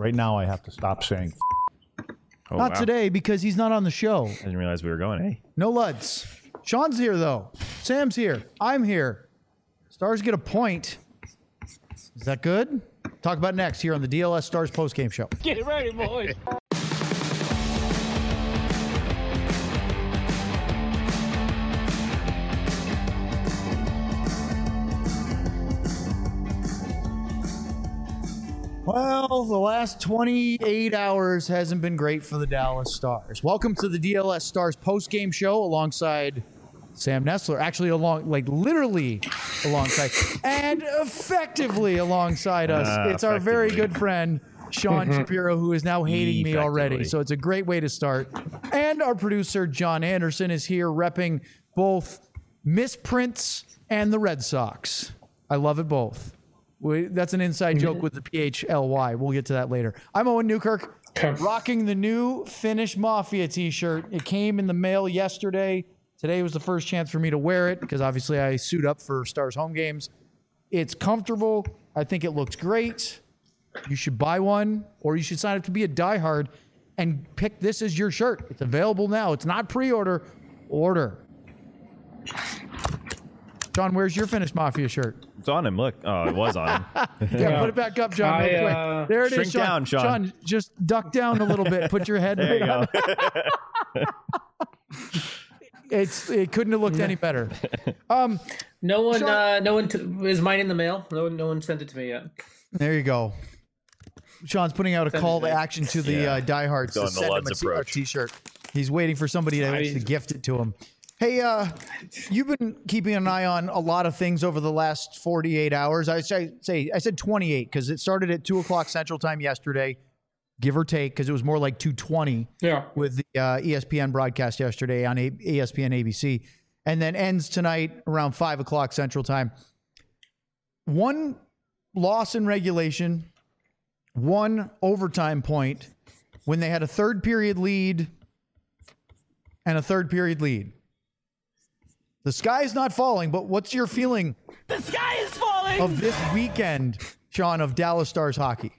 Right now, I have to stop saying. Oh, Not today because he's not on the show. I didn't realize we were going. Hey, No Luds. Sean's here though. Sam's here. I'm here. Stars get a point. Is that good? Talk about next here on the DLS Stars postgame show. Get ready, boys. Well, the last 28 hours hasn't been great for the Dallas Stars. Welcome to the DLS Stars postgame show alongside Sam Nestler. Actually, literally alongside and effectively alongside us. It's our very good friend, Sean Shapiro, who is now hating me already. So it's a great way to start. And our producer, John Anderson, is here repping both misprints and the Red Sox. I love it both. That's an inside joke with the PHLY. We'll get to that later. I'm Owen Newkirk, rocking the new Finnish Mafia t-shirt. It came in the mail yesterday. Today was the first chance for me to wear it because obviously I suit up for Stars home games. It's comfortable. I think it looks great. You should buy one, or you should sign up to be a diehard and pick this as your shirt. It's available now. It's not pre-order. Order. John, where's your Finnish Mafia shirt? it's on him. Look. Oh, it was on him. Yeah, put it back up, John. Real quick. There it is, Shrink down, Sean. Sean, just duck down a little bit. Put your head. There you go. It couldn't have looked any better. No one, Sean, is mine in the mail. No one sent it to me yet. There you go. Sean's putting out a call to action to the diehards to Going the send him Luds a approach. t-shirt. He's waiting for somebody to actually gift it to him. Hey, you've been keeping an eye on a lot of things over the last 48 hours. I said 28 because it started at 2 o'clock Central Time yesterday, give or take, because it was more like 2:20 with the ESPN broadcast yesterday on ESPN ABC, and then ends tonight around 5 o'clock Central Time. One loss in regulation, one overtime point when they had a third period lead and a third period lead. The sky is not falling, but what's your feeling? The sky is falling of this weekend, Sean, of Dallas Stars hockey?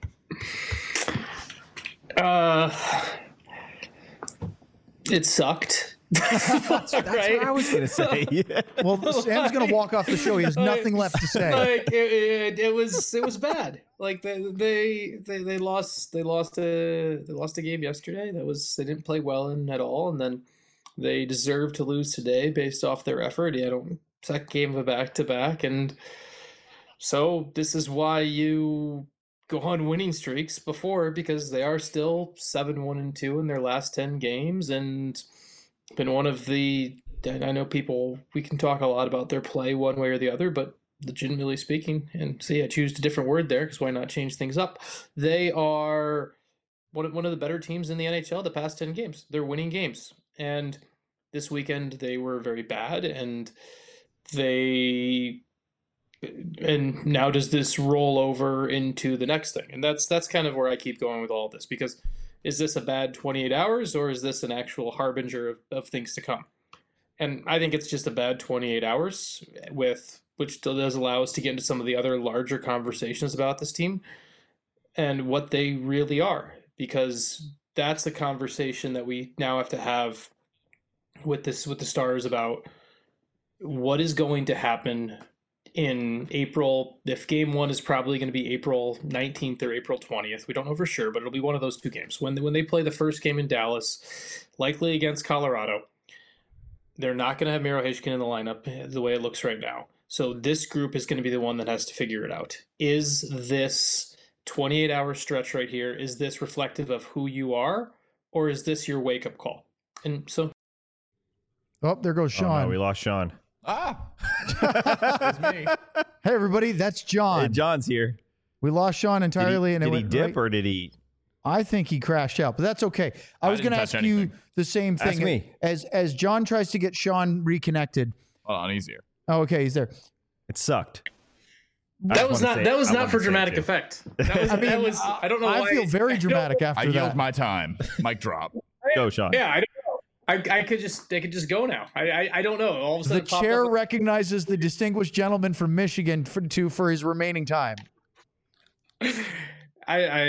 It sucked. That's what I was gonna say. Well, Sam's gonna walk off the show. He has nothing left to say. Like it was bad. Like they lost a game yesterday. They didn't play well in at all, and then they deserve to lose today based off their effort. Second game of a back-to-back, and so this is why you go on winning streaks before, because they are still 7-1-2 in their last 10 games, and been one of the. I know we can talk a lot about their play one way or the other, but legitimately speaking, and see, I choose a different word there because why not change things up? They are one of the better teams in the NHL the past 10 games. They're winning games. And this weekend they were very bad, and now does this roll over into the next thing? And that's kind of where I keep going with all of this, because is this a bad 28 hours or is this an actual harbinger of things to come? And I think it's just a bad 28 hours, which does allow us to get into some of the other larger conversations about this team and what they really are, because that's the conversation that we now have to have with the Stars about what is going to happen in April. If game one is probably going to be April 19th or April 20th, we don't know for sure, but it'll be one of those two games. When they play the first game in Dallas, likely against Colorado, they're not going to have Miro Heiskanen in the lineup the way it looks right now. So this group is going to be the one that has to figure it out. Is this 28-hour stretch right here, is this reflective of who you are, or is this your wake-up call? And so... Oh, there goes Sean. Oh, no, we lost Sean. That's me. Hey, everybody, that's John. Hey, John's here. We lost Sean entirely. Did he dip or did he? I think he crashed out, but that's okay. I was going to ask you the same thing. Ask me. As John tries to get Sean reconnected. Hold on, he's here. Oh, okay, he's there. It sucked. That was not for dramatic effect. I don't know why. I feel very dramatic after I that. yield my time. Mic drop. Go, Sean. Yeah, I don't know. I could just go now. I don't know. All of a sudden, The chair recognizes the distinguished gentleman from Michigan for his remaining time. I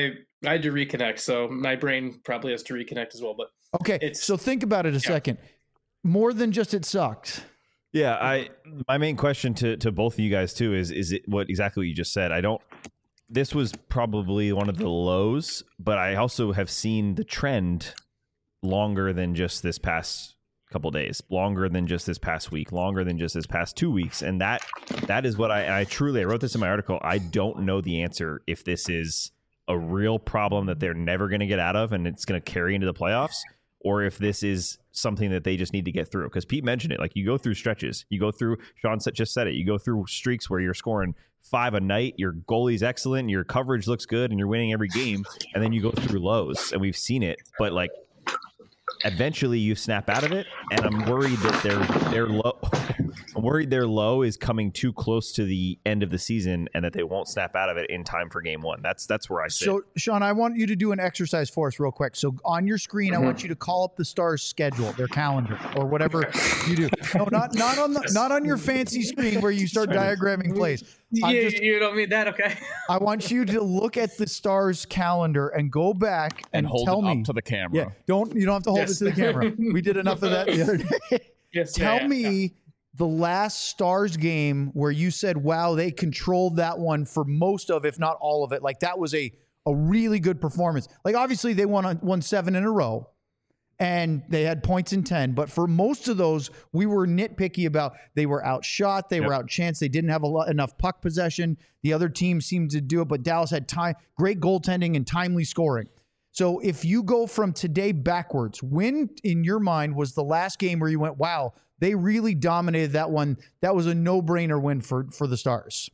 I had to reconnect, so my brain probably has to reconnect as well. But Okay, so think about it a second. More than just it sucked. Yeah, my main question to both of you guys too is it exactly what you just said. This was probably one of the lows, but I also have seen the trend longer than just this past couple days, longer than just this past week, longer than just this past 2 weeks, and that is what I wrote this in my article. I don't know the answer if this is a real problem that they're never going to get out of and it's going to carry into the playoffs, or if this is something that they just need to get through. Because Pete mentioned it, like you go through stretches, you go through, Sean just said it, you go through streaks where you're scoring 5 a night, your goalie's excellent, your coverage looks good, and you're winning every game, and then you go through lows, and we've seen it. But like, eventually you snap out of it, and I'm worried that they're low. I'm worried their low is coming too close to the end of the season, and that they won't snap out of it in time for game one. That's where I sit. So, Sean, I want you to do an exercise for us real quick. So on your screen, I want you to call up the Stars' schedule, their calendar, or whatever you do. No, not on your fancy screen where you start diagramming plays. You don't mean that, okay? I want you to look at the Stars' calendar and go back and hold tell it me. up to the camera. Yeah, you don't have to hold it to the camera. We did enough of that the other day. Yes, Tell me the last Stars game where you said, wow, they controlled that one for most of, if not all of it. Like that was a really good performance. Like obviously they won 7 in a row and they had points in 10. But for most of those, we were nitpicky about they were outshot, they were outchanced, they didn't have enough puck possession. The other team seemed to do it, but Dallas had great goaltending and timely scoring. So if you go from today backwards, when in your mind was the last game where you went, wow, they really dominated that one? That was a no-brainer win for the Stars.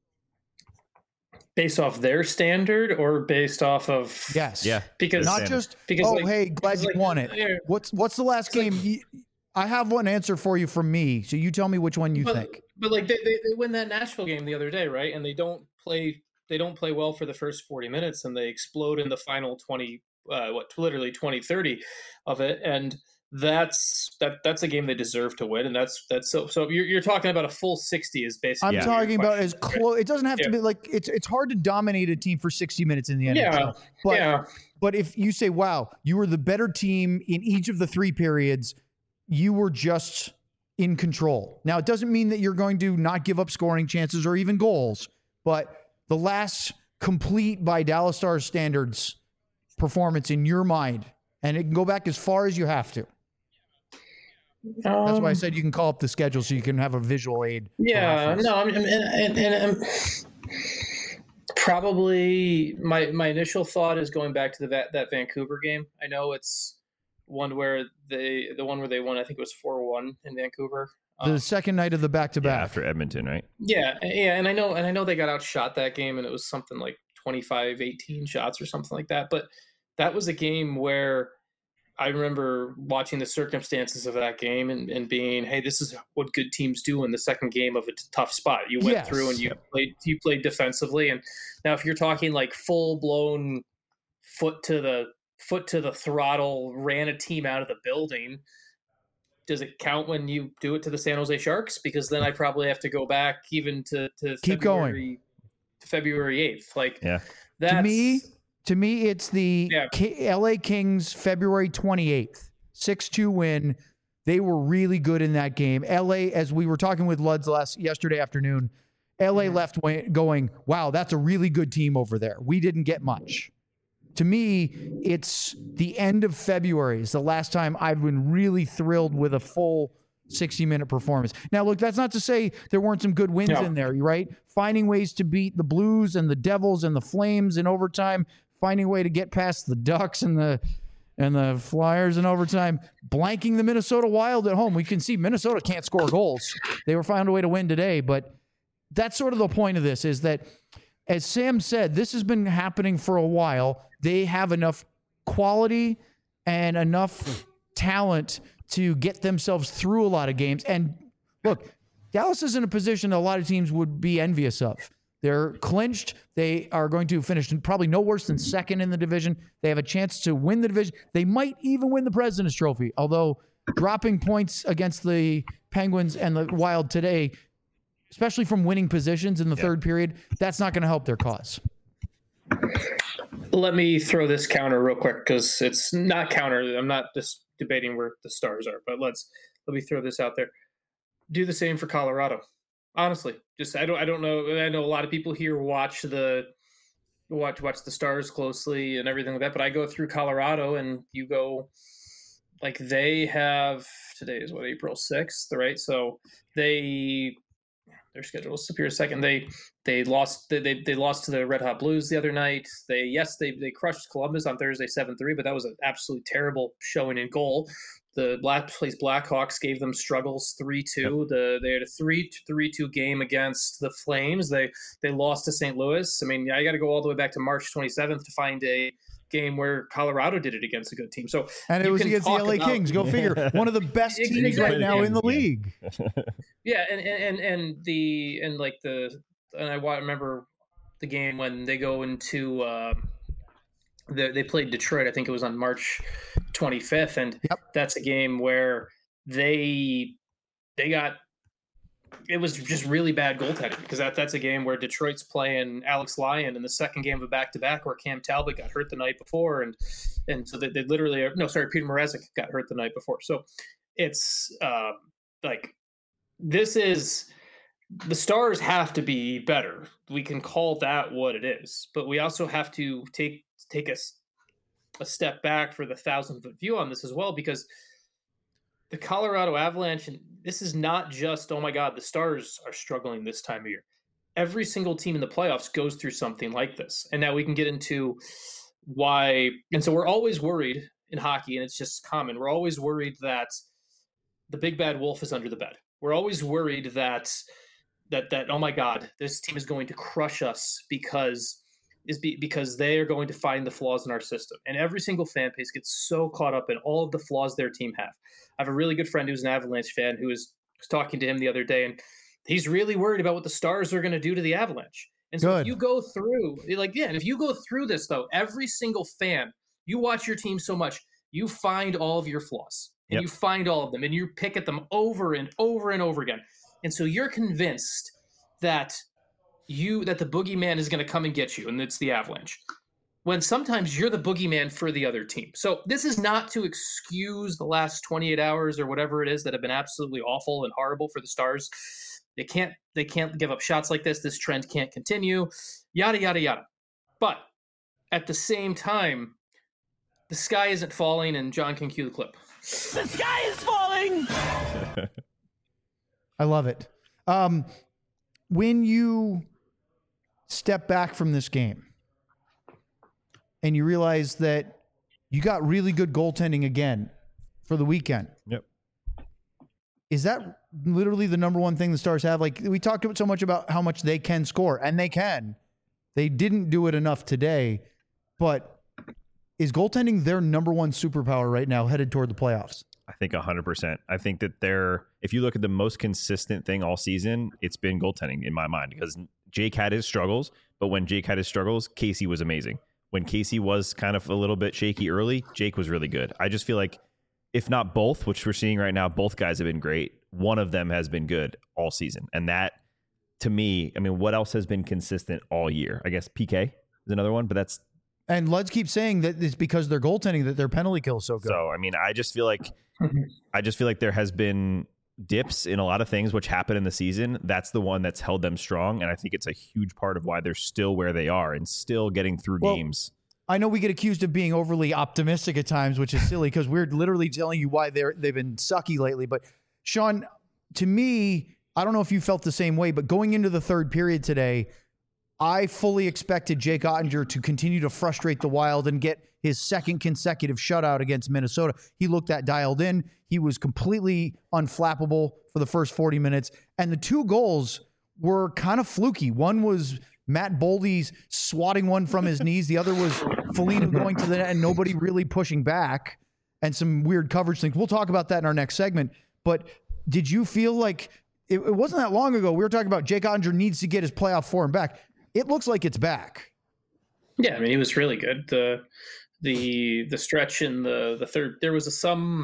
Based off their standard or based off of Yes. Yeah. Because not just hey, glad you won it. Yeah. What's the last game? I have one answer for you from me, so you tell me which one you think. But like they win that Nashville game the other day, right? And they don't play well for the first 40 minutes and they explode in the final 20 literally 20-30 of it, and that's a game they deserve to win, and that's so you're talking about a full 60 is basically. I'm talking about as close. It doesn't have to be like it's hard to dominate a team for 60 minutes in the NHL. But if you say, wow, you were the better team in each of the 3 periods, you were just in control. Now it doesn't mean that you're going to not give up scoring chances or even goals, but the last complete by Dallas Stars standards performance in your mind, and it can go back as far as you have to. That's why I said you can call up the schedule so you can have a visual aid. Yeah, no, I'm probably my initial thought is going back to that Vancouver game. I know it's one where the one where they won, I think it was 4-1 in Vancouver. The second night of the back-to-back after Edmonton, right? Yeah, and I know they got outshot that game, and it was something like 25-18 shots or something like that. But that was a game where I remember watching the circumstances of that game and being, hey, this is what good teams do in the second game of a tough spot. You went through and you played defensively, and now if you're talking like full blown foot to the throttle, ran a team out of the building. Does it count when you do it to the San Jose Sharks? Because then I probably have to go back even to February 8th. Like, that's, to me, it's the LA Kings February 28th, 6-2 win. They were really good in that game. LA, as we were talking with Luds yesterday afternoon, LA left going, wow, that's a really good team over there. We didn't get much. To me, it's the end of February is the last time I've been really thrilled with a full 60-minute performance. Now, look, that's not to say there weren't some good wins in there, right? Finding ways to beat the Blues and the Devils and the Flames in overtime, finding a way to get past the Ducks and the Flyers in overtime, blanking the Minnesota Wild at home. We can see Minnesota can't score goals. They were finding a way to win today, but that's sort of the point of this is that, as Sam said, this has been happening for a while. They have enough quality and enough talent to get themselves through a lot of games. And look, Dallas is in a position a lot of teams would be envious of. They're clinched. They are going to finish probably no worse than second in the division. They have a chance to win the division. They might even win the President's Trophy, although dropping points against the Penguins and the Wild today, especially from winning positions in the third period, that's not going to help their cause. Let me throw this counter real quick because it's not counter. I'm not just debating where the Stars are, but let me throw this out there. Do the same for Colorado. Honestly, just I don't know. I know a lot of people here watch the Stars closely and everything like that, but I go through Colorado and you go like they have today is what April 6th, right? So their schedule is Superior second. They lost they lost to the Red Hot Blues the other night. They crushed Columbus on Thursday 7-3, but that was an absolutely terrible showing in goal. The last place Blackhawks gave them struggles 3-2. They had a 3-2 game against the Flames. They lost to St. Louis. I mean, I got to go all the way back to March 27th to find a game where Colorado did it against a good team. So and it was against the LA Kings. Go figure. One of the best teams right now in the league. Yeah, and I remember the game when they go into they played Detroit. I think it was on March 25th, and that's a game where they got. It was just really bad goaltending because that's a game where Detroit's playing Alex Lyon in the second game of a back-to-back where Cam Talbot got hurt the night before, and so they literally Peter Mrazek got hurt the night before. So it's this is the Stars have to be better. We can call that what it is, but we also have to take a step back for the 1,000-foot view on this as well, because the Colorado Avalanche, and this is not just, oh my God, the Stars are struggling this time of year. Every single team in the playoffs goes through something like this. And now we can get into why. And so we're always worried in hockey, and it's just common. We're always worried that the big bad wolf is under the bed. We're always worried that oh my God, this team is going to crush us because they are going to find the flaws in our system. And every single fan base gets so caught up in all of the flaws their team have. I have a really good friend who's an Avalanche fan who was talking to him the other day, and he's really worried about what the Stars are going to do to the Avalanche. And so if you go through, if you go through this, though, every single fan, you watch your team so much, you find all of your flaws, and you find all of them, and you pick at them over and over and over again. And so you're convinced that the boogeyman is going to come and get you, and it's the Avalanche, when sometimes you're the boogeyman for the other team. So this is not to excuse the last 28 hours or whatever it is that have been absolutely awful and horrible for the Stars. They can't give up shots like this. This trend can't continue, yada, yada, yada. But at the same time, the sky isn't falling, and John can cue the clip. The sky is falling! I love it. When you step back from this game and you realize that you got really good goaltending again for the weekend. Yep. Is that literally the number one thing the Stars have? Like, we talked so much about how much they can score, and they can. They didn't do it enough today, but is goaltending their number one superpower right now headed toward the playoffs? I think 100%. I think that if you look at the most consistent thing all season, it's been goaltending in my mind, because Jake had his struggles, but when Jake had his struggles, Casey was amazing. When Casey was kind of a little bit shaky early, Jake was really good. I just feel like, if not both, which we're seeing right now, both guys have been great. One of them has been good all season. And that, to me, I mean, what else has been consistent all year? I guess PK is another one, but that's... And Luds keeps saying that it's because their goaltending that their penalty kill is so good. So, I mean, I just feel like there has been dips in a lot of things which happen in the season. That's the one that's held them strong, and I think it's a huge part of why they're still where they are and still getting through games. I know we get accused of being overly optimistic at times, which is silly because we're literally telling you why they've been sucky lately. But Sean, to me, I don't know if you felt the same way, but going into the third period today, I fully expected Jake Ottinger to continue to frustrate the Wild and get his second consecutive shutout against Minnesota. He looked that dialed in. He was completely unflappable for the first 40 minutes. And the two goals were kind of fluky. One was Matt Boldy's swatting one from his knees. The other was Foligno going to the net and nobody really pushing back, and some weird coverage things. We'll talk about that in our next segment. But did you feel like it wasn't that long ago we were talking about Jake Ottinger needs to get his playoff form back? It looks like it's back. Yeah, I mean, he was really good. The stretch in the third, there was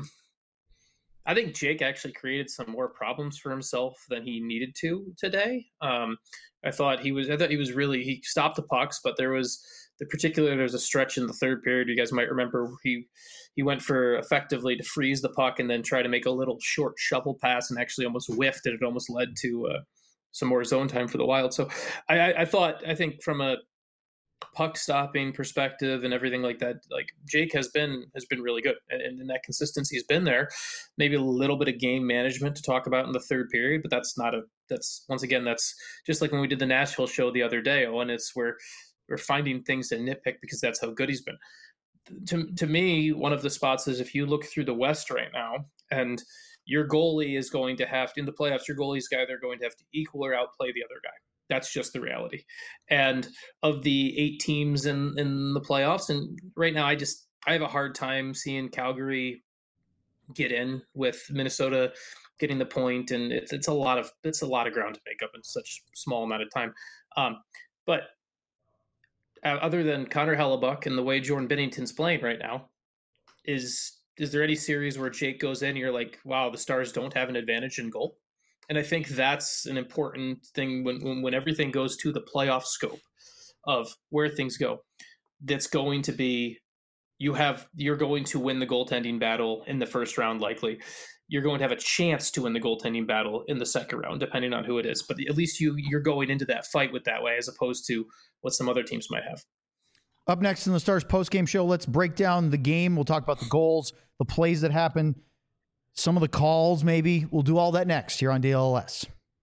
I think Jake actually created some more problems for himself than he needed to today. I thought he was really, he stopped the pucks, but there was particularly there's a stretch in the third period. You guys might remember he went for effectively to freeze the puck and then try to make a little short shovel pass and actually almost whiffed, and it almost led to some more zone time for the Wild. So I think from a puck stopping perspective and everything like that, like Jake has been really good, and that consistency has been there. Maybe a little bit of game management to talk about in the third period, but that's once again, that's just like when we did the Nashville show the other day, and it's where we're finding things to nitpick because that's how good he's been. To me, one of the spots is if you look through the West right now, and your goalie is going to have to, in the playoffs, your goalie's guy, they're going to have to equal or outplay the other guy. That's just the reality. And of the 8 teams in the playoffs, and right now I have a hard time seeing Calgary get in with Minnesota getting the point, and it's a lot of ground to make up in such small amount of time. But other than Connor Hellebuck and the way Jordan Binnington's playing right now, is there any series where Jake goes in and you're like, wow, the Stars don't have an advantage in goal? And I think that's an important thing when everything goes to the playoff scope of where things go. That's going to be, you're going to win the goaltending battle in the first round, likely. You're going to have a chance to win the goaltending battle in the second round, depending on who it is. But at least you're going into that fight with that way, as opposed to what some other teams might have. Up next in the Stars postgame show, let's break down the game. We'll talk about the goals, the plays that happen, some of the calls maybe. We'll do all that next here on DLS.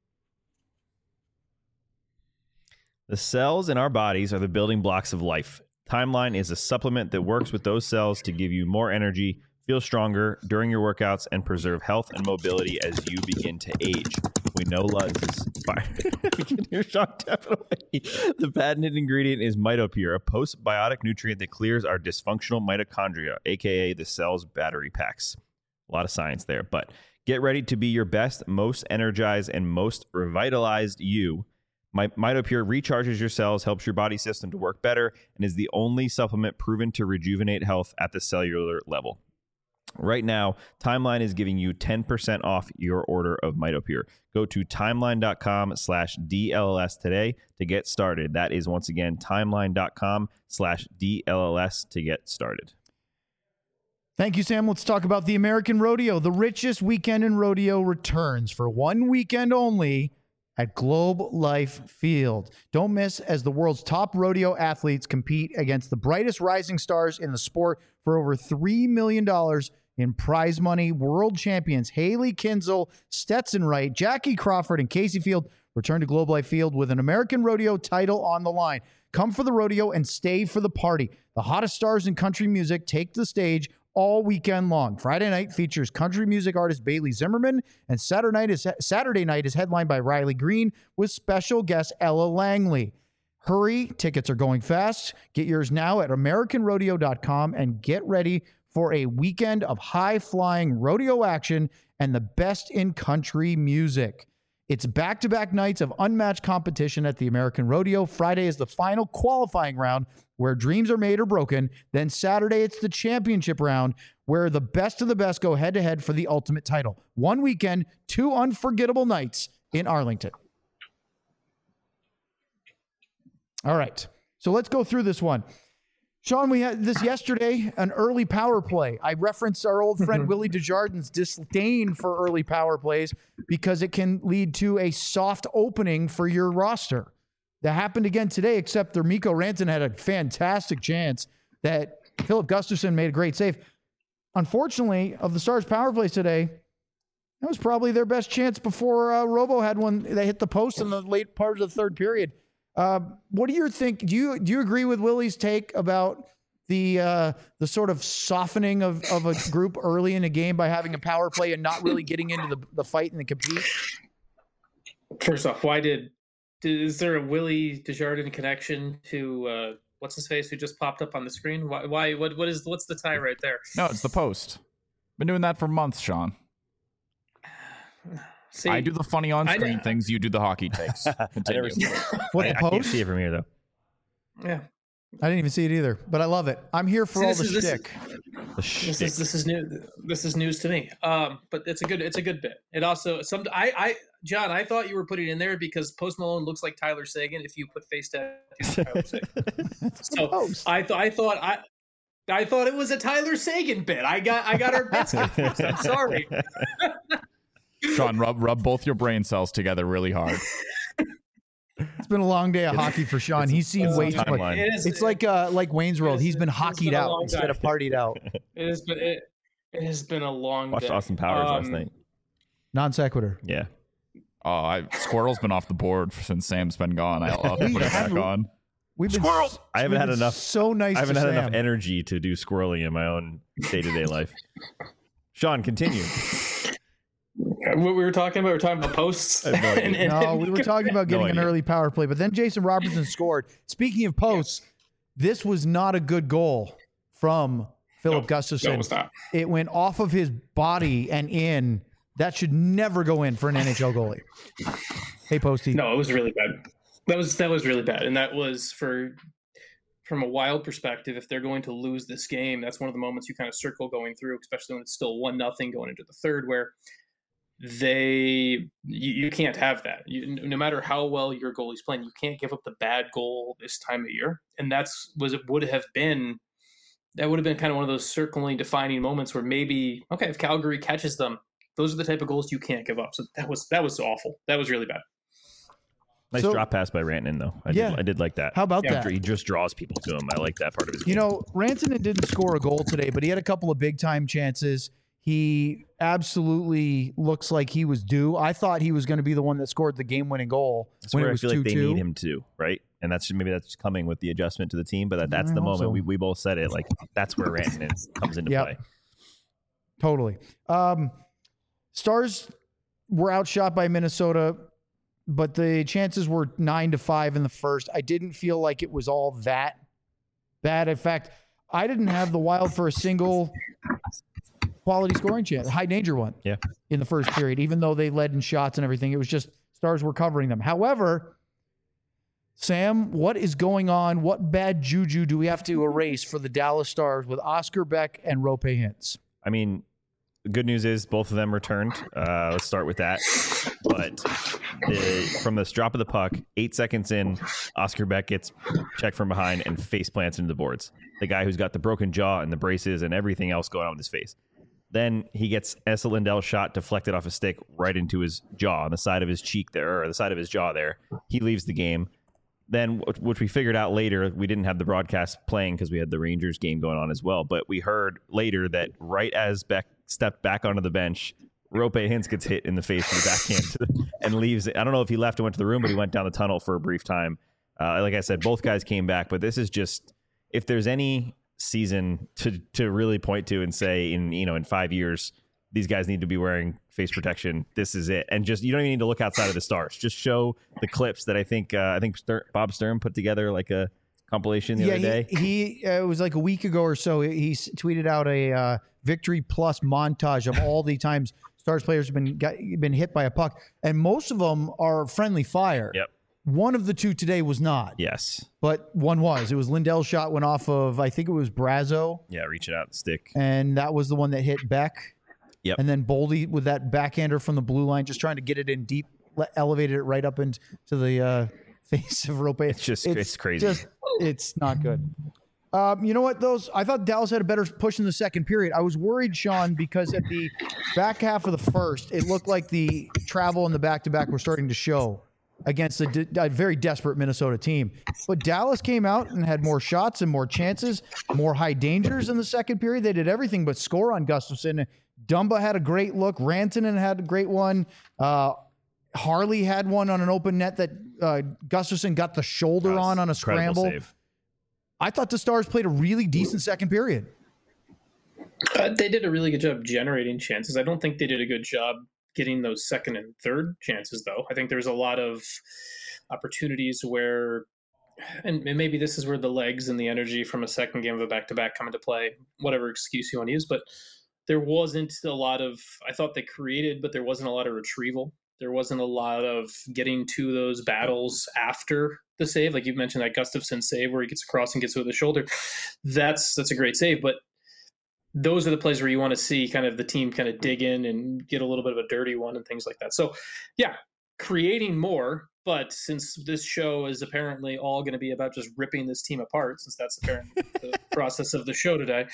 The cells in our bodies are the building blocks of life. Timeline is a supplement that works with those cells to give you more energy, feel stronger during your workouts, and preserve health and mobility as you begin to age. We know Luz is fine. We can hear Sean tapping away. The patented ingredient is MitoPure, a postbiotic nutrient that clears our dysfunctional mitochondria, aka the cell's battery packs. A lot of science there, but get ready to be your best, most energized, and most revitalized you. MitoPure recharges your cells, helps your body system to work better, and is the only supplement proven to rejuvenate health at the cellular level. Right now, Timeline is giving you 10% off your order of MitoPure. Go to timeline.com/DLLS today to get started. That is, once again, timeline.com/DLLS to get started. Thank you, Sam. Let's talk about the American Rodeo. The richest weekend in rodeo returns for one weekend only at Globe Life Field. Don't miss as the world's top rodeo athletes compete against the brightest rising stars in the sport for over $3 million in prize money. World champions Haley Kinzel, Stetson Wright, Jackie Crawford, and Casey Field return to Globe Life Field with an American Rodeo title on the line. Come for the rodeo and stay for the party. The hottest stars in country music take the stage all weekend long. Friday night features country music artist Bailey Zimmerman, and Saturday night is headlined by Riley Green with special guest Ella Langley. Hurry, tickets are going fast. Get yours now at AmericanRodeo.com and get ready for a weekend of high-flying rodeo action and the best in country music. It's back-to-back nights of unmatched competition at the American Rodeo. Friday is the final qualifying round where dreams are made or broken. Then Saturday, it's the championship round where the best of the best go head-to-head for the ultimate title. One weekend, 2 unforgettable nights in Arlington. All right, so let's go through this one. Sean, we had this yesterday, an early power play. I referenced our old friend Willie Desjardins' disdain for early power plays because it can lead to a soft opening for your roster. That happened again today, except their Mikko Rantanen had a fantastic chance that Philip Gustafsson made a great save. Unfortunately, of the Stars' power plays today, that was probably their best chance before Robo had one. They hit the post in the late part of the third period. What do you think? Do you agree with Willie's take about the sort of softening of a group early in a game by having a power play and not really getting into the fight and the compete? First off, is there a Willie Desjardins connection to what's his face who just popped up on the screen? Why? What's the tie right there? No, it's the post. Been doing that for months, Sean. See, I do the funny on-screen things. You do the hockey takes. Continue. What, the post? I can't see it from here, though. Yeah. I didn't even see it either, but I love it. I'm here for all the shtick. This is new. This is news to me. But it's a good bit. It also John, I thought you were putting it in there because Post Malone looks like Tyler Sagan if you put face tattoos on Tyler Sagan. So I thought it was a Tyler Sagan bit. I got our bits confused. I'm sorry. Sean, rub both your brain cells together really hard. It's been a long day of hockey for Sean. He's seen way too much. It's like Wayne's World. He's been hockeyed out instead of partied out. It has been a long Watched day. Austin Powers last night. Non sequitur. Yeah. Squirrel's been off the board since Sam's been gone. I'll have to put it back on. We've been I haven't had enough. So nice. I haven't had enough Sam. energy to do squirreling in my own day-to-day life. Sean, continue. What we were talking about? We were talking about posts. No, we were talking about getting an idea. early power play, but then Jason Robertson scored. Speaking of posts, this was not a good goal from Philip Gustafsson. No, it was not. It went off of his body and in. That should never go in for an NHL goalie. Hey, Posty. No, it was really bad. That was really bad, and that was from a Wild perspective. If they're going to lose this game, that's one of the moments you kind of circle going through, especially when it's still 1-0 going into the third, where you can't have that. No matter how well your goalie's playing, you can't give up the bad goal this time of year, and that would have been kind of one of those circling defining moments where maybe if Calgary catches them, those are the type of goals you can't give up. So that was awful. That was really bad. Nice drop pass by Rantanen, though. I did like that. How about that? He just draws people to him. I like that part of his game. Rantanen didn't score a goal today, but he had a couple of big-time chances. He absolutely looks like he was due. I thought he was going to be the one that scored the game-winning goal That's when where it was I feel 2-2. like they need him to, right? And that's coming with the adjustment to the team, but that's the moment we both said it. Like, that's where Rantanen comes into play. Totally. Stars were outshot by Minnesota, but the chances were 9-5 in the first. I didn't feel like it was all that bad. In fact, I didn't have the Wild for a single quality scoring chance, high danger one in the first period, even though they led in shots and everything. It was just Stars were covering them. However, Sam, what is going on? What bad juju do we have to erase for the Dallas Stars with Oscar Beck and Roope Hintz? I mean, the good news is both of them returned. Let's start with that. But from this drop of the puck, 8 seconds in, Oscar Beck gets checked from behind and face plants into the boards. The guy who's got the broken jaw and the braces and everything else going on with his face. Then he gets Esa Lindell's shot deflected off a stick right into his jaw, on the side of his cheek there, or the side of his jaw there. He leaves the game. Then, which we figured out later, we didn't have the broadcast playing because we had the Rangers game going on as well. But we heard later that right as Beck stepped back onto the bench, Roope Hintz gets hit in the face with the backhand and leaves. I don't know if he left and went to the room, but he went down the tunnel for a brief time. Like I said, both guys came back. But this is just, if there's any season to really point to and say in 5 years, these guys need to be wearing face protection, this is it. And just, you don't even need to look outside of the Stars. Just show the clips that I think Bob Stern put together, like a compilation the other day. He it was like a week ago or so. He tweeted out a Victory Plus montage of all the times Stars players have been hit by a puck, and most of them are friendly fire. Yep. One of the two today was not. Yes. But one was. It was Lindell's shot went off of, I think it was Brazo. Yeah, reaching out the stick. And that was the one that hit Beck. Yep. And then Boldy with that backhander from the blue line, just trying to get it in deep, elevated it right up into the face of Roope. It's crazy. It's not good. You know what, I thought Dallas had a better push in the second period. I was worried, Sean, because at the back half of the first, it looked like the travel and the back-to-back were starting to show against a very desperate Minnesota team. But Dallas came out and had more shots and more chances, more high dangers in the second period. They did everything but score on Gustafsson. Dumba had a great look. Rantanen had a great one. Harley had one on an open net that Gustafsson got the shoulder on a scramble. Save. I thought the Stars played a really decent second period. They did a really good job generating chances. I don't think they did a good job getting those second and third chances, though. I think there's a lot of opportunities where, and maybe this is where the legs and the energy from a second game of a back-to-back come into play, whatever excuse you want to use, but there wasn't a lot of, I thought they created, but there wasn't a lot of retrieval. There wasn't a lot of getting to those battles after the save. Like you mentioned that Gustafsson save where he gets across and gets with the shoulder. That's a great save, but those are the plays where you want to see kind of the team kind of dig in and get a little bit of a dirty one and things like that. So yeah, creating more. But since this show is apparently all going to be about just ripping this team apart, since that's apparently the process of the show today,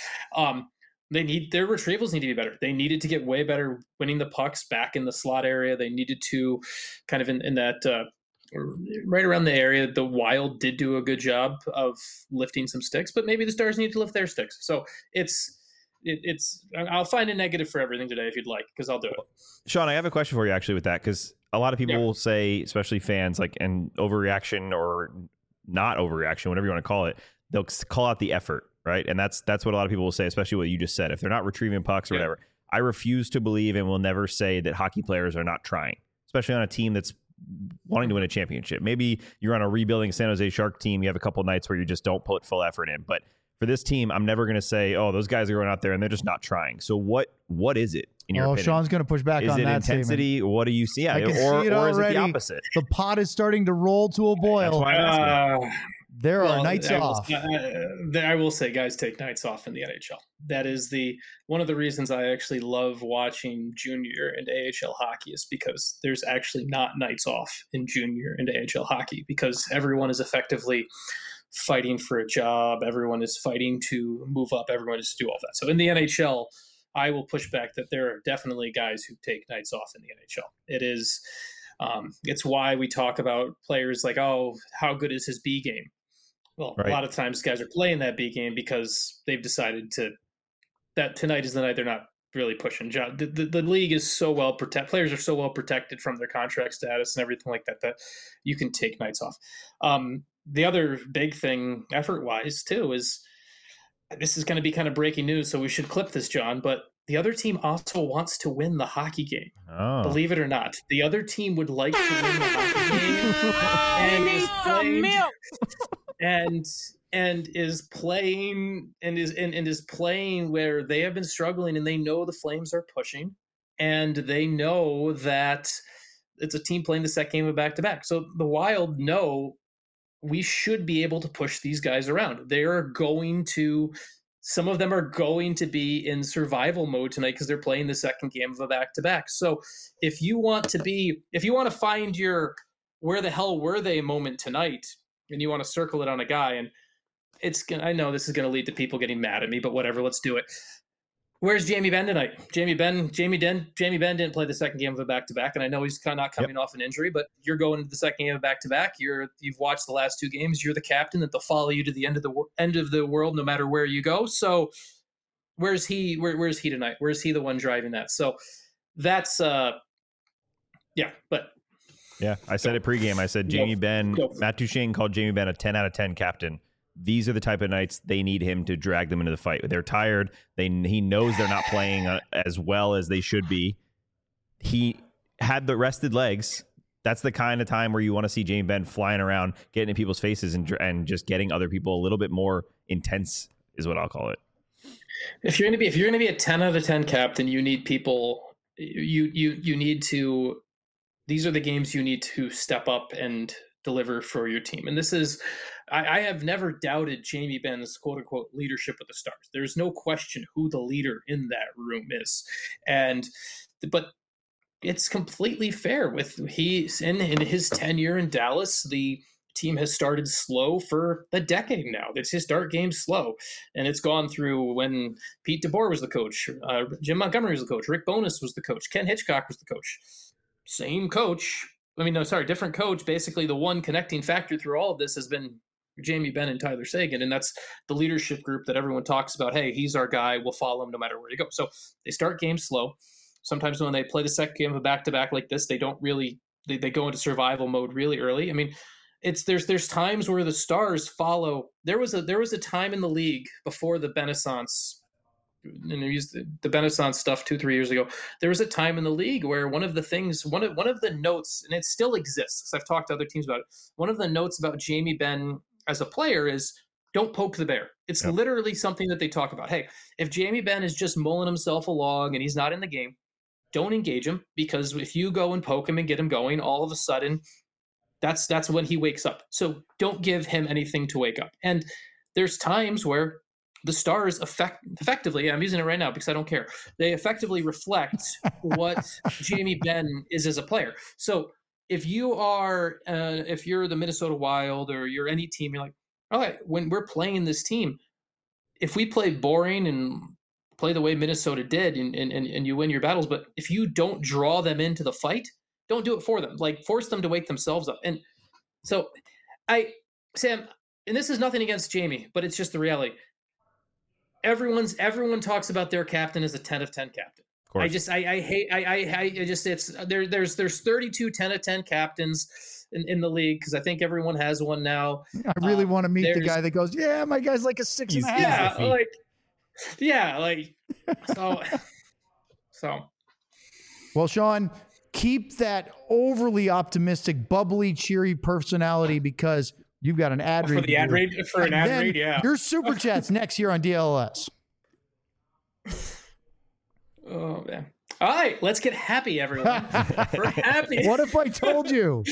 their retrievals need to be better. They needed to get way better winning the pucks back in the slot area. They needed to kind of in that right around the area. The Wild did do a good job of lifting some sticks, but maybe the Stars need to lift their sticks. So it's I'll find a negative for everything today if you'd like, because I'll do it. Sean, I have a question for you actually with that, because a lot of people will say, especially fans, like, and overreaction or not overreaction, whatever you want to call it, they'll call out the effort, right? And that's what a lot of people will say, especially what you just said. If they're not retrieving pucks or whatever, I refuse to believe and will never say that hockey players are not trying, especially on a team that's wanting to win a championship. Maybe you're on a rebuilding San Jose Shark team. You have a couple nights where you just don't put full effort in, but for this team, I'm never going to say, oh, those guys are going out there and they're just not trying. So what is it in your opinion? Sean's going to push back on that statement. Is it intensity? What do you see? I can see it or is it already. the opposite? The pot is starting to roll to a boil. That's why I'm asking. There are nights off. I will say, guys take nights off in the NHL. That is one of the reasons I actually love watching junior and AHL hockey, is because there's actually not nights off in junior and AHL hockey, because everyone is effectively fighting for a job. Everyone is fighting to move up. Everyone is to do all that. So in the NHL, I will push back that there are definitely guys who take nights off in the NHL. It is, it's why we talk about players like, oh, how good is his B game? Well, right. A lot of times guys are playing that B game because they've decided that tonight is the night they're not really pushing. The league is so well protected. Players are so well protected from their contract status and everything like that you can take nights off. The other big thing effort-wise, too, is this is going to be kind of breaking news, so we should clip this, John, but the other team also wants to win the hockey game. Oh. Believe it or not. The other team would like to win the hockey game. Need some milk! And is playing where they have been struggling, and they know the Flames are pushing, and they know that it's a team playing the second game of back-to-back. So the Wild know we should be able to push these guys around. Some of them are going to be in survival mode tonight because they're playing the second game of a back-to-back. So if you want to find your where the hell were they moment tonight, and you want to circle it on a guy, and I know this is going to lead to people getting mad at me, but whatever, let's do it. Where's Jamie Benn tonight? Jamie Benn didn't play the second game of a back-to-back, and I know he's kind of not coming off an injury, but you're going to the second game of a back-to-back. You've watched the last two games. You're the captain that they'll follow you to the end of the world, no matter where you go. So where's he? Where's he tonight? Where's he the one driving that? So that's I said it pregame. I said Jamie Benn. Matt Duchene called Jamie Benn a 10 out of 10 captain. These are the type of nights they need him to drag them into the fight. They're tired. He knows they're not playing as well as they should be. He had the rested legs. That's the kind of time where you want to see Jamie Benn flying around, getting in people's faces, and just getting other people a little bit more intense is what I'll call it. If you're going to be a 10 out of 10 captain, you need people. You need to. These are the games you need to step up and deliver for your team. And this is, I have never doubted Jamie Benn's quote unquote leadership with the Stars. There's no question who the leader in that room is. But it's completely fair with in his tenure in Dallas, the team has started slow for a decade now. It's his start game slow. And it's gone through when Pete DeBoer was the coach, Jim Montgomery was the coach, Rick Bowness was the coach, Ken Hitchcock was the coach. Same coach. Different coach. Basically, the one connecting factor through all of this has been Jamie Benn and Tyler Seguin, and that's the leadership group that everyone talks about. Hey, he's our guy. We'll follow him no matter where you go. So they start games slow. Sometimes when they play the second game of a back-to-back like this, they don't really they go into survival mode really early. I mean, there's times where the Stars follow. There was a time in the league before the Renaissance. And they used the Renaissance stuff 2-3 years ago. There was a time in the league where one of the notes, and it still exists because I've talked to other teams about it. One of the notes about Jamie Benn as a player is don't poke the bear. It's literally something that they talk about. Hey, if Jamie Benn is just mulling himself along and he's not in the game, don't engage him, because if you go and poke him and get him going, all of a sudden that's when he wakes up. So don't give him anything to wake up. And there's times where the Stars effectively, I'm using it right now because I don't care, they effectively reflect what Jamie Benn is as a player. So if you're the Minnesota Wild or you're any team, you're like, all right, when we're playing this team, if we play boring and play the way Minnesota did and you win your battles, but if you don't draw them into the fight, don't do it for them. Like, force them to wake themselves up. And so Sam, and this is nothing against Jamie, but it's just the reality. Everyone talks about their captain as a 10 of 10 captain. I just there's 32 10 of 10 captains in the league, because I think everyone has one now. I really want to meet the guy that goes, yeah, my guy's like a 6.5. So. Well, Sean, keep that overly optimistic, bubbly, cheery personality, because you've got an ad read. For an ad read, yeah. Your super chats next year on DLS. Oh man! All right, let's get happy, everyone. For happy. What if I told you?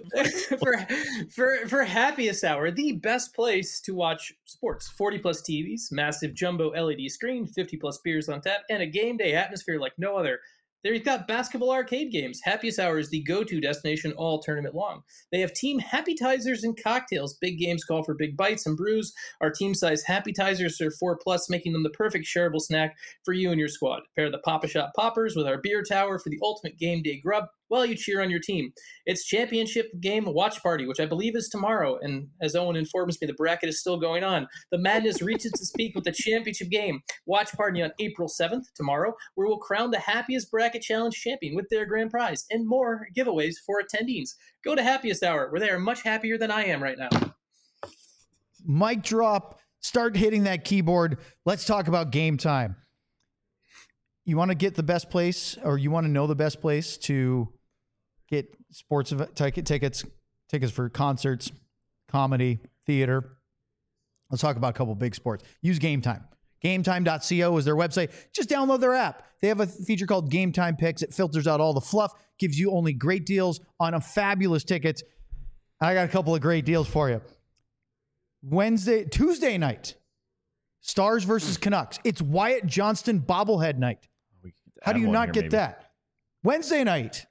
for happiest hour, the best place to watch sports. 40 plus TVs, massive jumbo LED screen, 50 plus beers on tap, and a game day atmosphere like no other. They've got basketball arcade games. Happiest Hour is the go-to destination all tournament long. They have team Happytizers and cocktails. Big games call for big bites and brews. Our team-size Happytizers are 4+, making them the perfect shareable snack for you and your squad. Pair the Pop-A-Shot Poppers with our beer tower for the ultimate game day grub while you cheer on your team. It's championship game watch party, which I believe is tomorrow. And as Owen informs me, the bracket is still going on. The madness reaches its peak with the championship game watch party on April 7th, tomorrow, where we'll crown the happiest bracket challenge champion with their grand prize and more giveaways for attendees. Go to Happiest Hour, where they are much happier than I am right now. Mic drop. Start hitting that keyboard. Let's talk about Game Time. You want to get the best place, or you want to know the best place to get sports tickets for concerts, comedy, theater. Let's talk about a couple big sports. Use Game Time. GameTime.co is their website. Just download their app. They have a feature called Game Time Picks. It filters out all the fluff, gives you only great deals on a fabulous tickets. I got a couple of great deals for you. Tuesday night, Stars versus Canucks. It's Wyatt Johnston bobblehead night. How do you not get that? Wednesday night,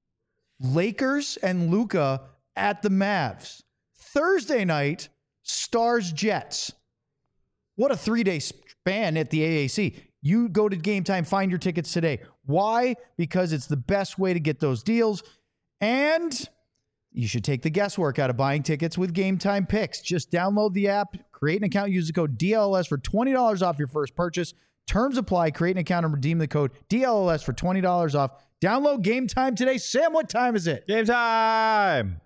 Lakers and Luka at the Mavs. Thursday night, Stars Jets. What a 3-day span at the AAC. You go to Game Time, find your tickets today. Why? Because it's the best way to get those deals. And you should take the guesswork out of buying tickets with Game Time Picks. Just download the app, create an account, use the code DLS for $20 off your first purchase. Terms apply. Create an account and redeem the code DLS for $20 off. Download Game Time today. Sam, what time is it? Game time.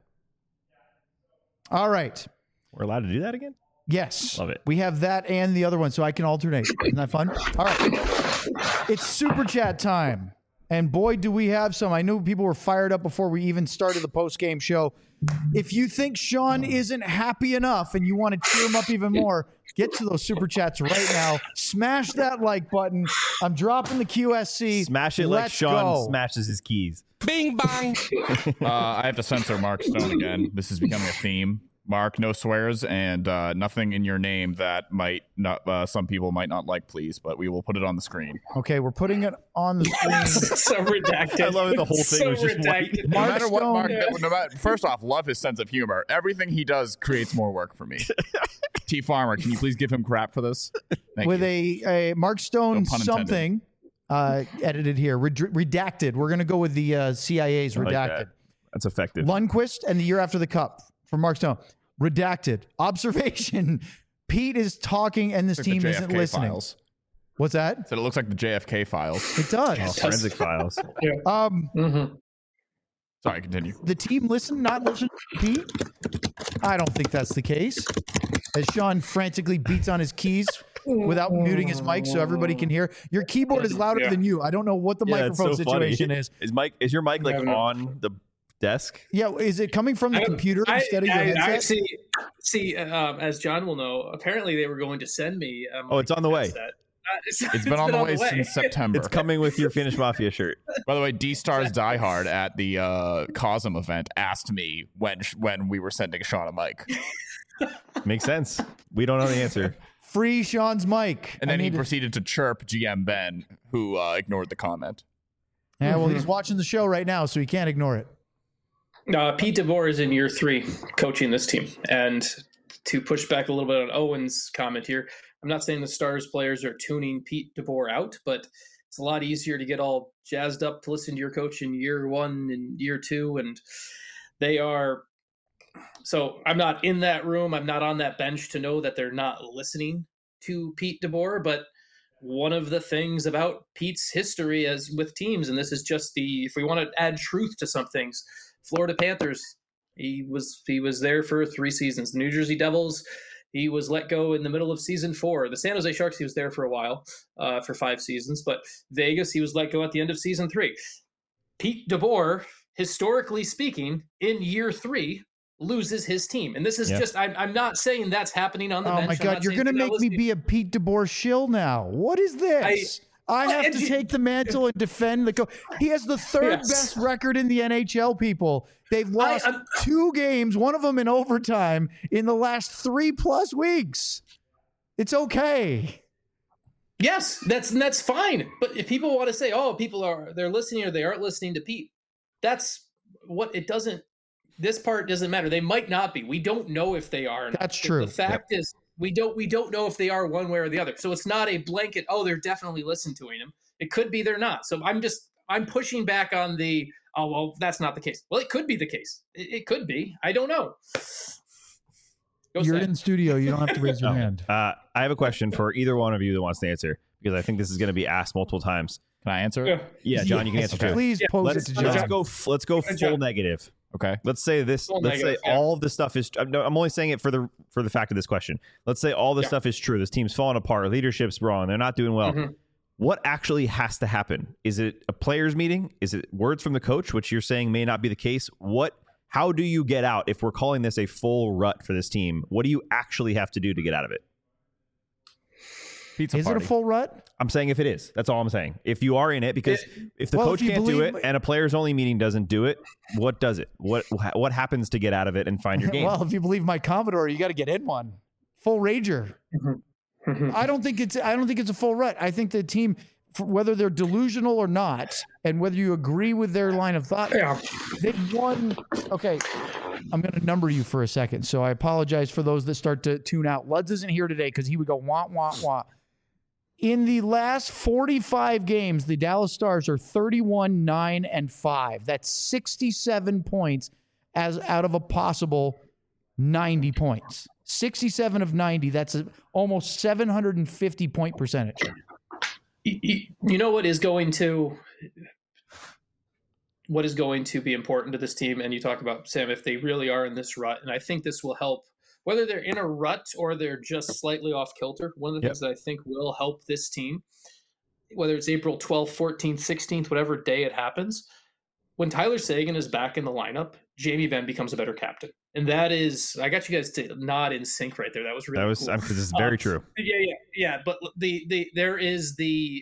All right. We're allowed to do that again? Yes. Love it. We have that and the other one, so I can alternate. Isn't that fun? All right. It's Super Chat time. And boy, do we have some. I knew people were fired up before we even started the post-game show. If you think Sean isn't happy enough and you want to cheer him up even more, get to those Super Chats right now. Smash that like button. I'm dropping the QSC. Smash it like Sean smashes his keys. Bing bang. I have to censor Mark Stone again. This is becoming a theme. Mark, no swears and nothing in your name that might not some people might not like, please, but we will put it on the screen. Okay, we're putting it on the screen. So redacted. I love it. The whole thing so was just redacted. No matter what, Stone, Mark, no matter, first off, love his sense of humor. Everything he does creates more work for me. T Farmer, can you please give him crap for this? Thank with you. a Mark Stone No pun intended. something edited here. Redacted. We're going to go with the CIA's I like redacted. that. That's effective. Lundqvist and the year after the cup from Mark Stone. Redacted. Observation. Pete is talking and this It's like team the isn't JFK listening. files. What's that? So it looks like the JFK files. It does. Forensic files. Sorry, continue. The team not listen to Pete? I don't think that's the case. As Sean frantically beats on his keys without muting his mic so everybody can hear. Your keyboard is louder than you. I don't know what the microphone situation is. Is your mic like on the desk? Yeah, is it coming from the computer instead of your headset? See, as John will know, apparently they were going to send me. It's on the way. It's been on the way since September. It's coming with your Finnish Mafia shirt. By the way, D-Stars Die Hard at the Cosm event asked me when we were sending Sean a mic. Makes sense. We don't know the answer. Free Sean's mic. And then he proceeded to chirp GM Ben, who ignored the comment. Yeah, well, he's watching the show right now, so he can't ignore it. Pete DeBoer is in year 3 coaching this team. And to push back a little bit on Owen's comment here, I'm not saying the Stars players are tuning Pete DeBoer out, but it's a lot easier to get all jazzed up to listen to your coach in year 1 and year 2. And they are. So I'm not in that room. I'm not on that bench to know that they're not listening to Pete DeBoer. But one of the things about Pete's history as with teams, and this is just if we want to add truth to some things, Florida Panthers, he was there for 3 seasons. The New Jersey Devils, he was let go in the middle of season 4. The San Jose Sharks, he was there for a while, for 5 seasons. But Vegas, he was let go at the end of season 3. Pete DeBoer, historically speaking, in year 3, loses his team. And this is just, I'm not saying that's happening on the bench. Oh my God, you're going to make me be a Pete DeBoer shill now. What is this? I have to take the mantle and defend the coach. He has the 3rd best record in the NHL, people. They've lost 2 games, one of them in overtime, in the last 3+ weeks. It's okay. Yes, that's fine. But if people want to say, oh, they're listening or they aren't listening to Pete, that's what it doesn't. This part doesn't matter. They might not be. We don't know if they are. That's true. The fact is, we don't know if they are one way or the other. So it's not a blanket. Oh, they're definitely listening to him. It could be they're not. So I'm pushing back on the. Oh well, that's not the case. Well, it could be the case. It could be. I don't know. You're in the studio. You don't have to raise your hand. I have a question for either one of you that wants to answer, because I think this is going to be asked multiple times. Can I answer it? Yeah, John, you can answer too. Please pose it to John. Let's go full negative. Okay. Let's say this. Let's say all of the stuff is. I'm only saying it for the fact of this question. Let's say all this stuff is true. This team's falling apart. Leadership's wrong. They're not doing well. Mm-hmm. What actually has to happen? Is it a players' meeting? Is it words from the coach, which you're saying may not be the case? How do you get out if we're calling this a full rut for this team? What do you actually have to do to get out of it? Is it a full rut? I'm saying if it is. That's all I'm saying. If you are in it, because if the coach can't do it and a players only meeting doesn't do it, what does it? What happens to get out of it and find your game? Well, if you believe my Commodore, you got to get in one. Full rager. I don't think it's a full rut. I think the team, whether they're delusional or not, and whether you agree with their line of thought, they've won. Okay, I'm going to number you for a second, so I apologize for those that start to tune out. Luds isn't here today because he would go wah wah wah. In the last 45 games, the Dallas Stars are 31-9-5. That's 67 points as out of a possible 90 points. 67 of 90. That's almost 750 point percentage. You know what is going to be important to this team? And you talk about, Sam, if they really are in this rut, and I think this will help. Whether they're in a rut or they're just slightly off kilter, one of the things that I think will help this team, whether it's April 12th, 14th, 16th, whatever day it happens, when Tyler Seguin is back in the lineup, Jamie Benn becomes a better captain. And that is, I got you guys to nod in sync right there. That was really cool. This is very true. Yeah. But there is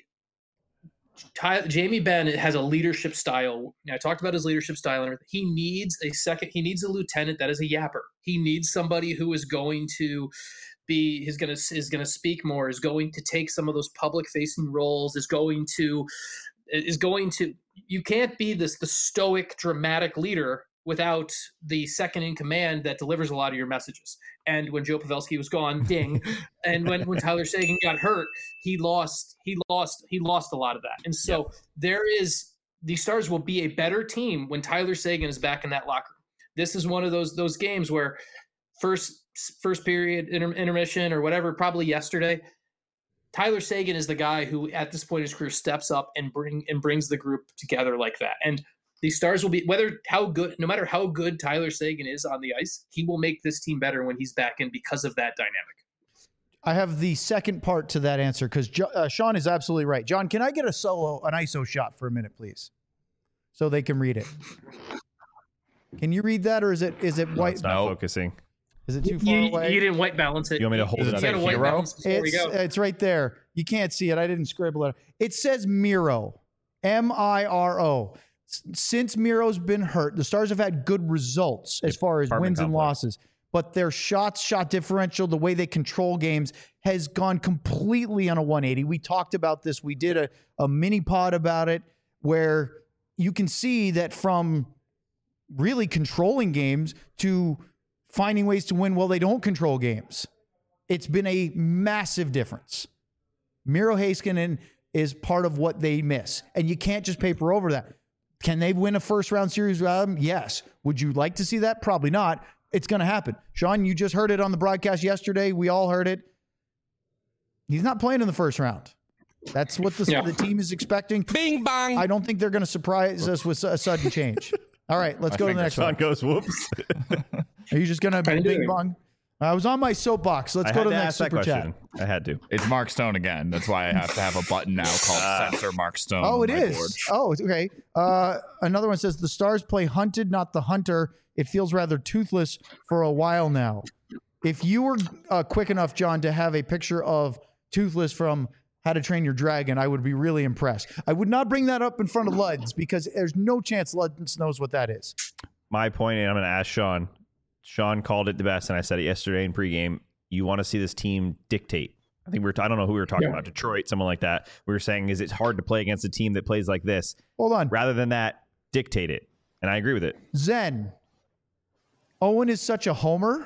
Jamie Benn has a leadership style. I talked about his leadership style and everything. He needs a lieutenant that is a yapper. He needs somebody who is going to be, is going to speak more, is going to take some of those public facing roles, is going to, you can't be the stoic, dramatic leader without the second in command that delivers a lot of your messages. And when Joe Pavelski was gone, ding. And when Tyler Seguin got hurt, he lost a lot of that. And so the Stars will be a better team when Tyler Seguin is back in that locker room. This is one of those games where first period intermission or whatever, probably yesterday, Tyler Seguin is the guy who at this point in his career steps up and brings the group together like that. And the Stars will be, no matter how good Tyler Seguin is on the ice, he will make this team better when he's back in because of that dynamic. I have the second part to that answer because Sean is absolutely right. John, can I get an ISO shot for a minute, please? So they can read it. Can you read that, or is it white? It's not focusing. Is it too far away? You didn't white balance it. You want me to hold it up? White balance it's right there. You can't see it. I didn't scribble it. It says Miro. Miro. Since Miro's been hurt, the Stars have had good results as far as wins and losses. But their shot differential, the way they control games, has gone completely on a 180. We talked about this. We did a mini pod about it where you can see that from really controlling games to finding ways to win while they don't control games. It's been a massive difference. Miro Heiskanen is part of what they miss, and you can't just paper over that. Can they win a first-round series without him? Yes. Would you like to see that? Probably not. It's going to happen. Sean, you just heard it on the broadcast yesterday. We all heard it. He's not playing in the first round. That's what the team is expecting. Bing bong. I don't think they're going to surprise us with a sudden change. All right, let's go to the next Sean one. goes, whoops. Are you just going to bing bong? I was on my soapbox. Let's go to the next super chat. I had to. It's Mark Stone again. That's why I have to have a button now called Censor Mark Stone. Oh, on it my is. board. Oh, okay. Another one says the Stars play hunted, not the hunter. It feels rather toothless for a while now. If you were quick enough, John, to have a picture of Toothless from How to Train Your Dragon, I would be really impressed. I would not bring that up in front of Luds because there's no chance Luds knows what that is. My point, and I'm going to ask Sean. Sean called it the best, and I said it yesterday in pregame. You want to see this team dictate. I think I don't know who we were talking about, Detroit, someone like that. We were saying, is it hard to play against a team that plays like this? Hold on. Rather than that, dictate it. And I agree with it. Zen. Owen is such a homer.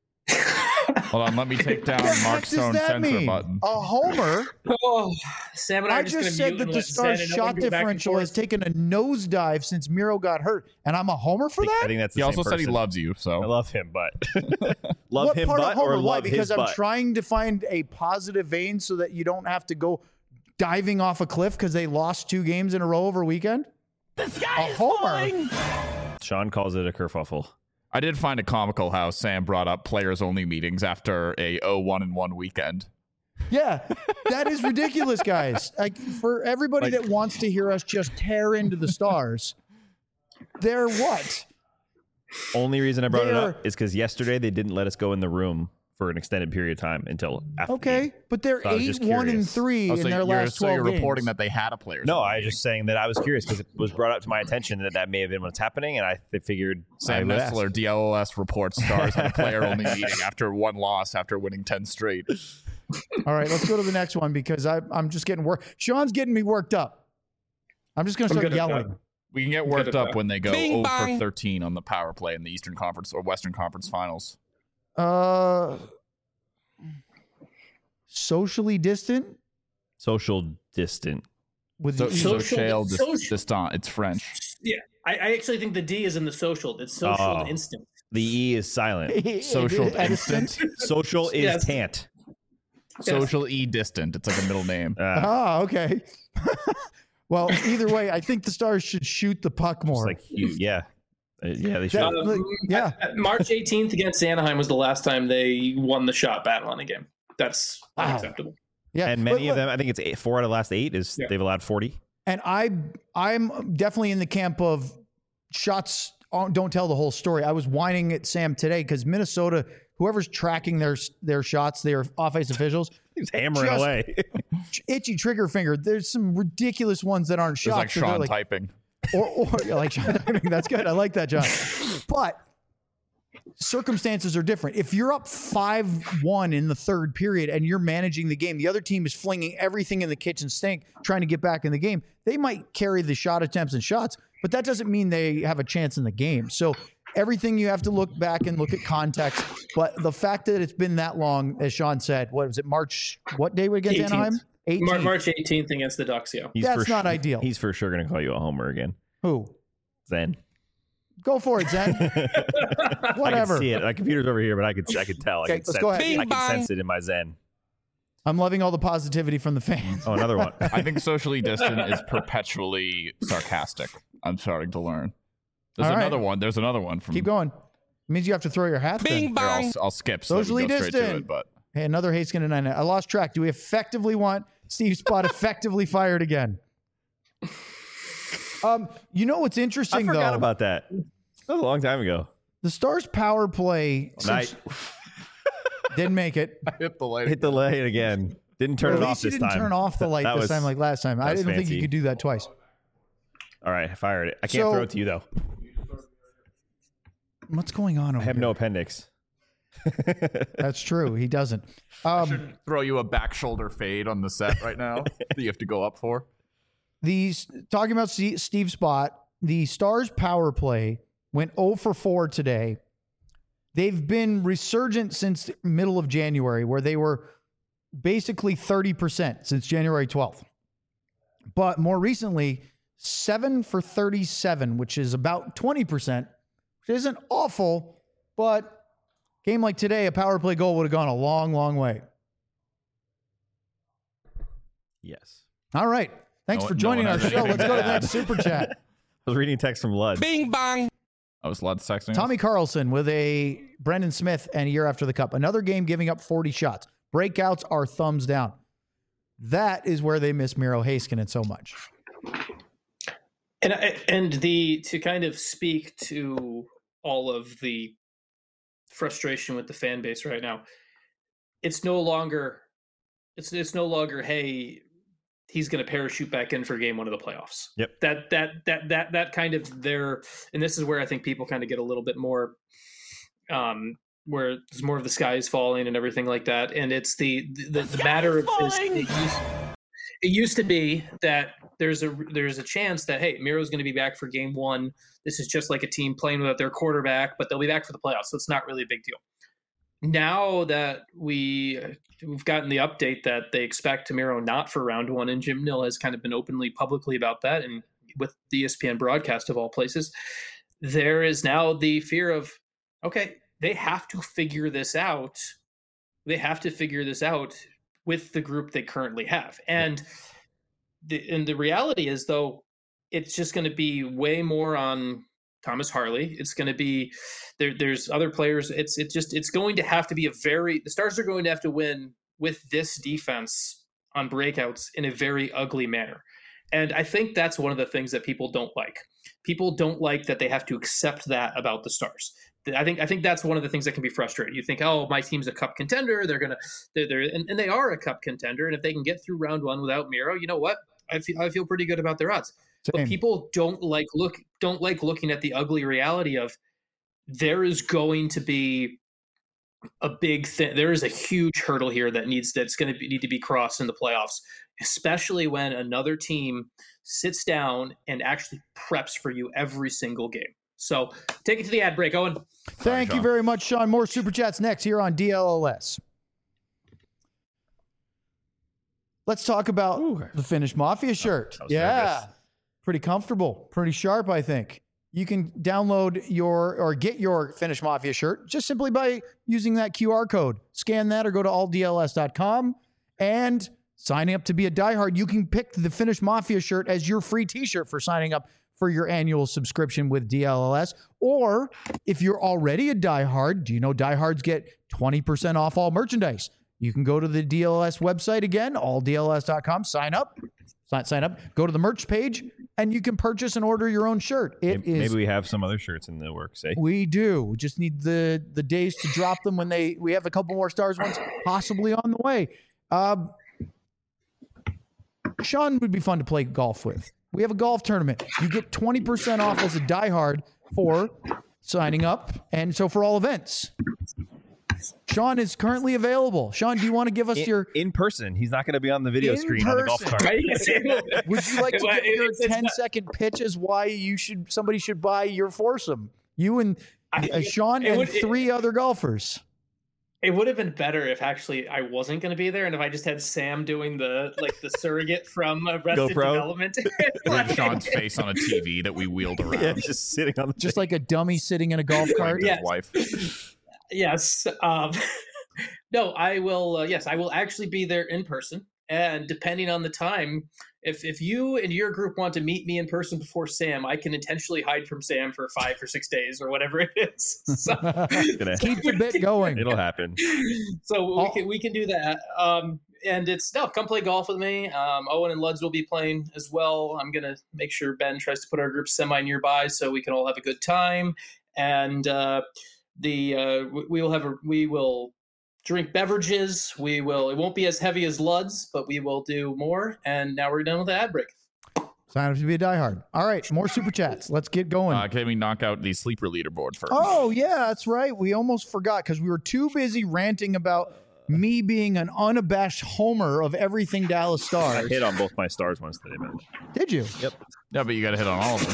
Hold on, let me take down Mark Stone's censor button. A homer? Oh, Sam and I I are just just gonna said mute that and the let Stars' Zen and shot Owen go back and differential has forth. taken a nosedive since Miro got hurt, and I'm a homer for that? I think that's the He same also said he person. loves you, I so love him, but love What him, part of but homer? or Why? love Because his I'm butt. trying to find a positive vein so that you don't have to go diving off a cliff because they lost 2 games in a row over a weekend. The sky A is homer. falling. Sean calls it a kerfuffle. I did find it comical how Sam brought up players-only meetings after a 0-1-1 weekend. Yeah, that is ridiculous, guys. Like for everybody that wants to hear us just tear into the Stars, they're what? Only reason I brought it They're- up is because yesterday they didn't let us go in the room for an extended period of time until after the Okay, game. but they're So I was just 8-1 and curious. 3 Oh, in their last 12 you're games. reporting that they had a players. No, I was just saying that I was curious because it was brought up to my attention that may have been what's happening, and I figured I Sam would ask. Nestler, DLOS reports Stars had a player-only meeting after one loss after winning 10 straight. All right, let's go to the next one because I'm just getting worked. Sean's getting me worked up. I'm just going to I'm start good at yelling. We can get Good worked at up that. when they go Bing 0 for bong. 13 on the power play in the Eastern Conference or Western Conference Finals. Socially distant Social distant. with So, the Social- distant. It's French. Yeah, I actually think the D is in the social. It's social Oh. instant. The E is silent. Social Edison. instant. Social is Yes. tant. Social E distant. It's like a middle name. Ah, okay. Well, either way, I think the Stars should shoot the puck It's more. like yeah, yeah. They should. That- yeah. March 18th against Anaheim was the last time they won the shot battle in a game. That's Wow. unacceptable. Yeah, And many but- of them, I think it's 4 out of the last 8 is Yeah. they've allowed 40. And I'm definitely in the camp of shots don't tell the whole story. I was whining at Sam today because Minnesota, whoever's tracking their shots, their offensive officials, He's hammering Just- away. itchy trigger finger. There's some ridiculous ones that aren't It's shots. like so they're Sean like- typing. or yeah, like Sean typing. That's good. I like that, John. But circumstances are different. If you're up 5-1 in the third period and you're managing the game, the other team is flinging everything in the kitchen sink trying to get back in the game. They might carry the shot attempts and shots, but that doesn't mean they have a chance in the game. So everything you have to look back and look at context. But the fact that it's been that long, as Sean said, what was it, March? What day we against 18th. Anaheim? 18th. March 18th against the Ducks, yeah. That's not ideal. He's for sure going to call you a homer again. Who? Zen. Go for it, Zen. I Whatever. can see it. My computer's over here, but I could tell. Okay, I let's can go sense, ahead. I can sense it in my Zen. I'm loving all the positivity from the fans. Oh, another one. I think socially distant is perpetually sarcastic. I'm starting to learn. There's All right. another one. There's another one from. Keep going. It means you have to throw your hat. Bing Then. Here, bong. I'll skip so Socially we can go straight to distant. it. But Hey, another Haskin and I lost track. Do we effectively want Steve Spott effectively fired again? You know what's interesting I forgot though? about that. That was a long time ago. The Stars power play Night. didn't make it. I hit the light. Hit the light again. Didn't turn At it off least you this didn't time. turn off the light That this was- time like last time. I was didn't think you fancy. could do that twice. All right, I fired it. I can't So- throw it to you though. What's going on over I have here? no appendix. That's true. He doesn't. Throw you a back shoulder fade on the set right now that you have to go up for. Talking about Steve Spott, the Stars power play went 0 for 4 today. They've been resurgent since middle of January, where they were basically 30% since January 12th. But more recently, 7 for 37, which is about 20%, which isn't awful, but game like today, a power play goal would have gone a long, long way. Yes. All right. Thanks for joining our show. Let's go to the next super chat. I was reading a text from Lud. Bing bong. I was Lud texting. Tommy Carlson with a Brendan Smith and a year after the cup. Another game giving up 40 shots. Breakouts are thumbs down. That is where they miss Miro Heiskanen so much. And to kind of speak to all of the frustration with the fan base right now, it's no longer hey, he's going to parachute back in for game one of the playoffs. Yep. That kind of there, and this is where I think people kind of get a little bit more, where there's more of the sky is falling and everything like that. And it's the matter of it used to be that there's a chance that, hey, Miro's going to be back for game one. This is just like a team playing without their quarterback, but they'll be back for the playoffs. So it's not really a big deal. Now that we've gotten the update that they expect Miro not for round one, and Jim Nill has kind of been openly publicly about that, and with the ESPN broadcast of all places, there is now the fear of, okay, they have to figure this out. They have to figure this out with the group they currently have. And the reality is, though, it's just going to be way more on Thomas Harley. It's going to be there's other players. It's going to have to be the Stars are going to have to win with this defense on breakouts in a very ugly manner. And I think that's one of the things that people don't like. People don't like that they have to accept that about the Stars. I think that's one of the things that can be frustrating. You think, oh, my team's a cup contender. And they are a cup contender. And if they can get through round one without Miro, you know what? I feel pretty good about their odds. Same. But people don't like looking at the ugly reality of there is going to be a big thing. There is a huge hurdle here that's going to need to be crossed in the playoffs, especially when another team sits down and actually preps for you every single game. So take it to the ad break, Owen. Thank you very much, Sean. More Super Chats next here on DLLS. Let's talk about the Finnish Mafia shirt. Yeah. Pretty comfortable, pretty sharp, I think. You can download or get your Finnish Mafia shirt just simply by using that QR code. Scan that or go to alldls.com and signing up to be a diehard. You can pick the Finnish Mafia shirt as your free t-shirt for signing up for your annual subscription with DLLS. Or if you're already a diehard, do you know diehards get 20% off all merchandise? You can go to the DLS website again, alldls.com, sign up, go to the merch page, and you can purchase and order your own shirt. Maybe we have some other shirts in the works, eh? We do. We just need the days to drop them when we have a couple more Stars ones possibly on the way. Sean would be fun to play golf with. We have a golf tournament. You get 20% off as a diehard for signing up, and so for all events. Sean is currently available. Sean, do you want to give us your in person? He's not going to be on the video screen on the golf cart. Would you like to give your 10-second pitch as why somebody should buy your foursome? You and Sean and three other golfers. It would have been better if actually I wasn't going to be there, and if I just had Sam doing the surrogate from Arrested Development. With Sean's face on a TV that we wheeled around. Yeah, just sitting on just like a dummy sitting in a golf cart. Yes. Wife. Yes. No, I will. Yes, I will actually be there in person. And depending on the time, if you and your group want to meet me in person before Sam, I can intentionally hide from Sam for 5 or 6 days or whatever it is. So, keep the bit going. It'll happen. So we can do that. And come play golf with me. Owen and Luds will be playing as well. I'm gonna make sure Ben tries to put our group semi nearby so we can all have a good time. And we will drink beverages. It won't be as heavy as Luds, but we will do more. And now we're done with the ad break. Sign up to be a diehard. All right, more super chats. Let's get going. Can we knock out the sleeper leaderboard first? Oh, yeah, that's right. We almost forgot because we were too busy ranting about me being an unabashed homer of everything Dallas Stars. I hit on both my Stars ones today, man. Did you? Yep. Yeah, but you got to hit on all of them.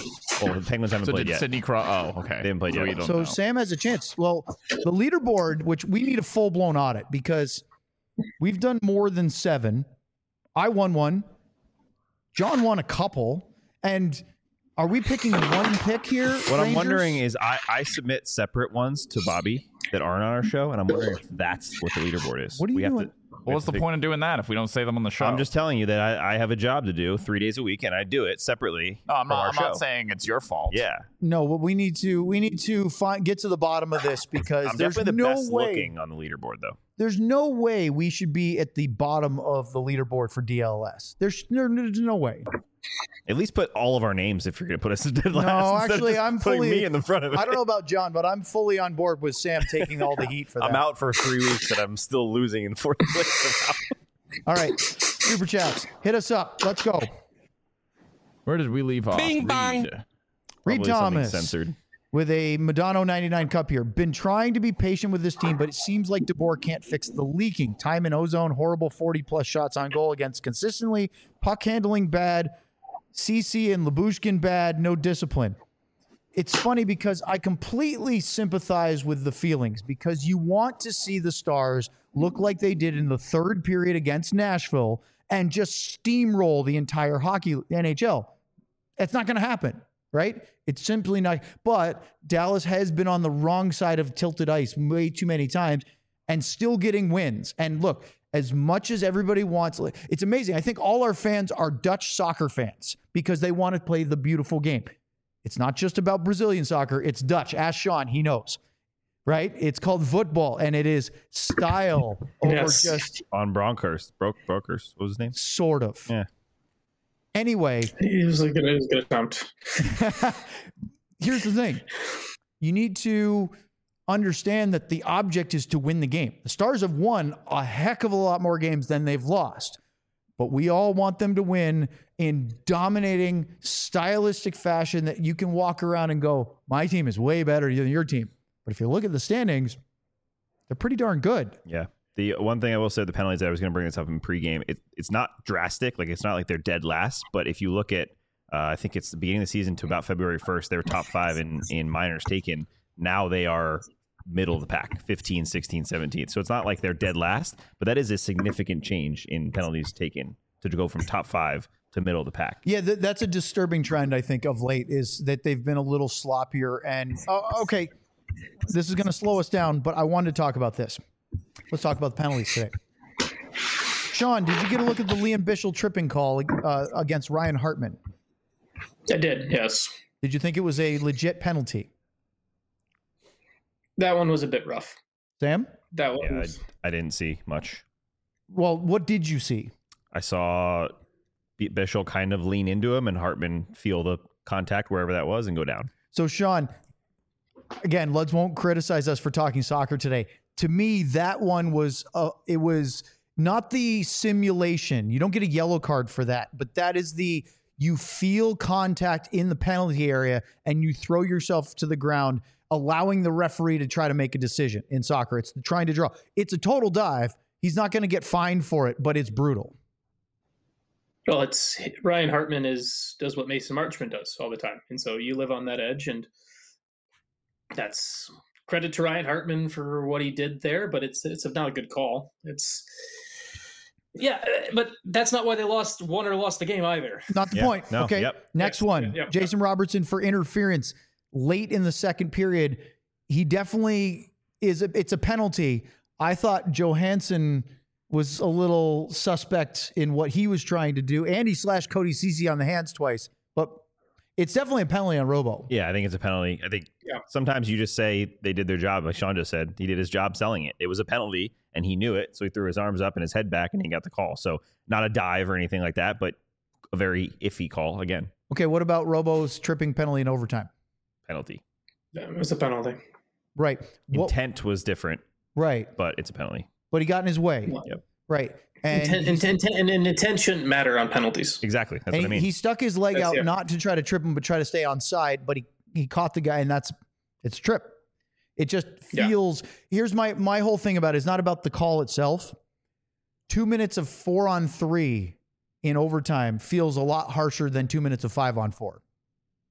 Well, the Penguins haven't So played did yet. Sidney Cross? Oh, okay. They haven't played So yet. we don't So know. Sam has a chance. Well, the leaderboard, which we need a full blown audit because we've done more than 7. I won one. John won a couple. And are we picking one pick here? What I'm wondering is I submit separate ones to Bobby that aren't on our show, and I'm wondering if that's what the leaderboard is. What are you doing? What's the point of doing that if we don't say them on the show? I'm just telling you that I have a job to do 3 days a week, and I do it separately. No, I'm from our not. I'm show. not saying it's your fault. Yeah, No, but we need to get to the bottom of this because I'm there's definitely the no best way looking on the leaderboard, though. there's no way we should be at the bottom of the leaderboard for DLS. There's no way. At least put all of our names if you're going to put us in dead last. No, instead of actually, just I'm putting fully. me in the front of it. I don't know about John, but I'm fully on board with Sam taking all the heat for that. I'm out for 3 weeks, and I'm still losing in fourth place. All right, super chats, hit us up. Let's go. Where did we leave off? Bing bong. Reed Probably something Thomas censored. with a Madonna 99 cup here. Been trying to be patient with this team, but it seems like DeBoer can't fix the leaking. Time in ozone, horrible 40-plus shots on goal against consistently. Puck handling bad. CC and Labushkin bad. No discipline. It's funny because I completely sympathize with the feelings because you want to see the Stars look like they did in the third period against Nashville and just steamroll the entire hockey NHL. That's not going to happen, right? It's simply not. But Dallas has been on the wrong side of tilted ice way too many times and still getting wins. And look, as much as everybody wants, it's amazing. I think all our fans are Dutch soccer fans because they want to play the beautiful game. It's not just about Brazilian soccer. It's Dutch. Ask Sean. He knows, right? It's called football, and it is style over Yes. just On Bronckhurst. Brokers. What was his name? sort of. Yeah. Anyway, It was a good attempt. here's the thing. You need to understand that the object is to win the game. The Stars have won a heck of a lot more games than they've lost, but we all want them to win in dominating stylistic fashion that you can walk around and go, my team is way better than your team. But if you look at the standings, they're pretty darn good. Yeah. The one thing I will say, the penalties, I was going to bring this up in pregame. It's not drastic. Like, it's not like they're dead last. But if you look at, I think it's the beginning of the season to about February 1st, they were top 5 in minors taken. Now they are middle of the pack, 15, 16, 17. So it's not like they're dead last, but that is a significant change in penalties taken to go from top 5 to middle of the pack. Yeah, that's a disturbing trend, I think, of late, is that they've been a little sloppier. And, okay, this is going to slow us down, but I wanted to talk about this. Let's talk about the penalties today. Sean, did you get a look at the Liam Bichsel tripping call against Ryan Hartman? I did, yes. Did you think it was a legit penalty? That one was a bit rough. Sam? That one Yeah, was, I didn't see much. Well, what did you see? I saw Bichel kind of lean into him and Hartman feel the contact wherever that was and go down. So, Sean, again, Luds won't criticize us for talking soccer today. To me, that one was, it was not the simulation. You don't get a yellow card for that, but that is you feel contact in the penalty area and you throw yourself to the ground, allowing the referee to try to make a decision in soccer. It's trying to draw. It's a total dive. He's not going to get fined for it, but it's brutal. well, it's Ryan Hartman does what Mason Marchment does all the time. And so you live on that edge, and that's credit to Ryan Hartman for what he did there, but it's not a good call. Yeah, but that's not why they won or lost the game either. Not the Yeah, point. no, Okay. yep. Next Yeah, one. yeah, Jason Robertson for interference late in the second period. He definitely it's a penalty. I thought Johansson was a little suspect in what he was trying to do. And he slashed Cody Ceci on the hands twice. But it's definitely a penalty on Robo. Yeah, I think it's a penalty. I think sometimes you just say they did their job. Like Sean just said, he did his job selling it. It was a penalty, and he knew it, so he threw his arms up and his head back, and he got the call. So not a dive or anything like that, but a very iffy call again. Okay, what about Robo's tripping penalty in overtime? Penalty. Yeah, it was a penalty. Right. Intent was different, right. but it's a penalty. But he got in his way. Yep. Right. And Intent shouldn't matter on penalties. Exactly. That's and what I mean. he stuck his leg That's out it. not to try to trip him, but try to stay on side. But he caught the guy, and it's a trip. It just feels. Here's my whole thing about it is not about the call itself. 2 minutes of 4-on-3 in overtime feels a lot harsher than 2 minutes of 5-on-4.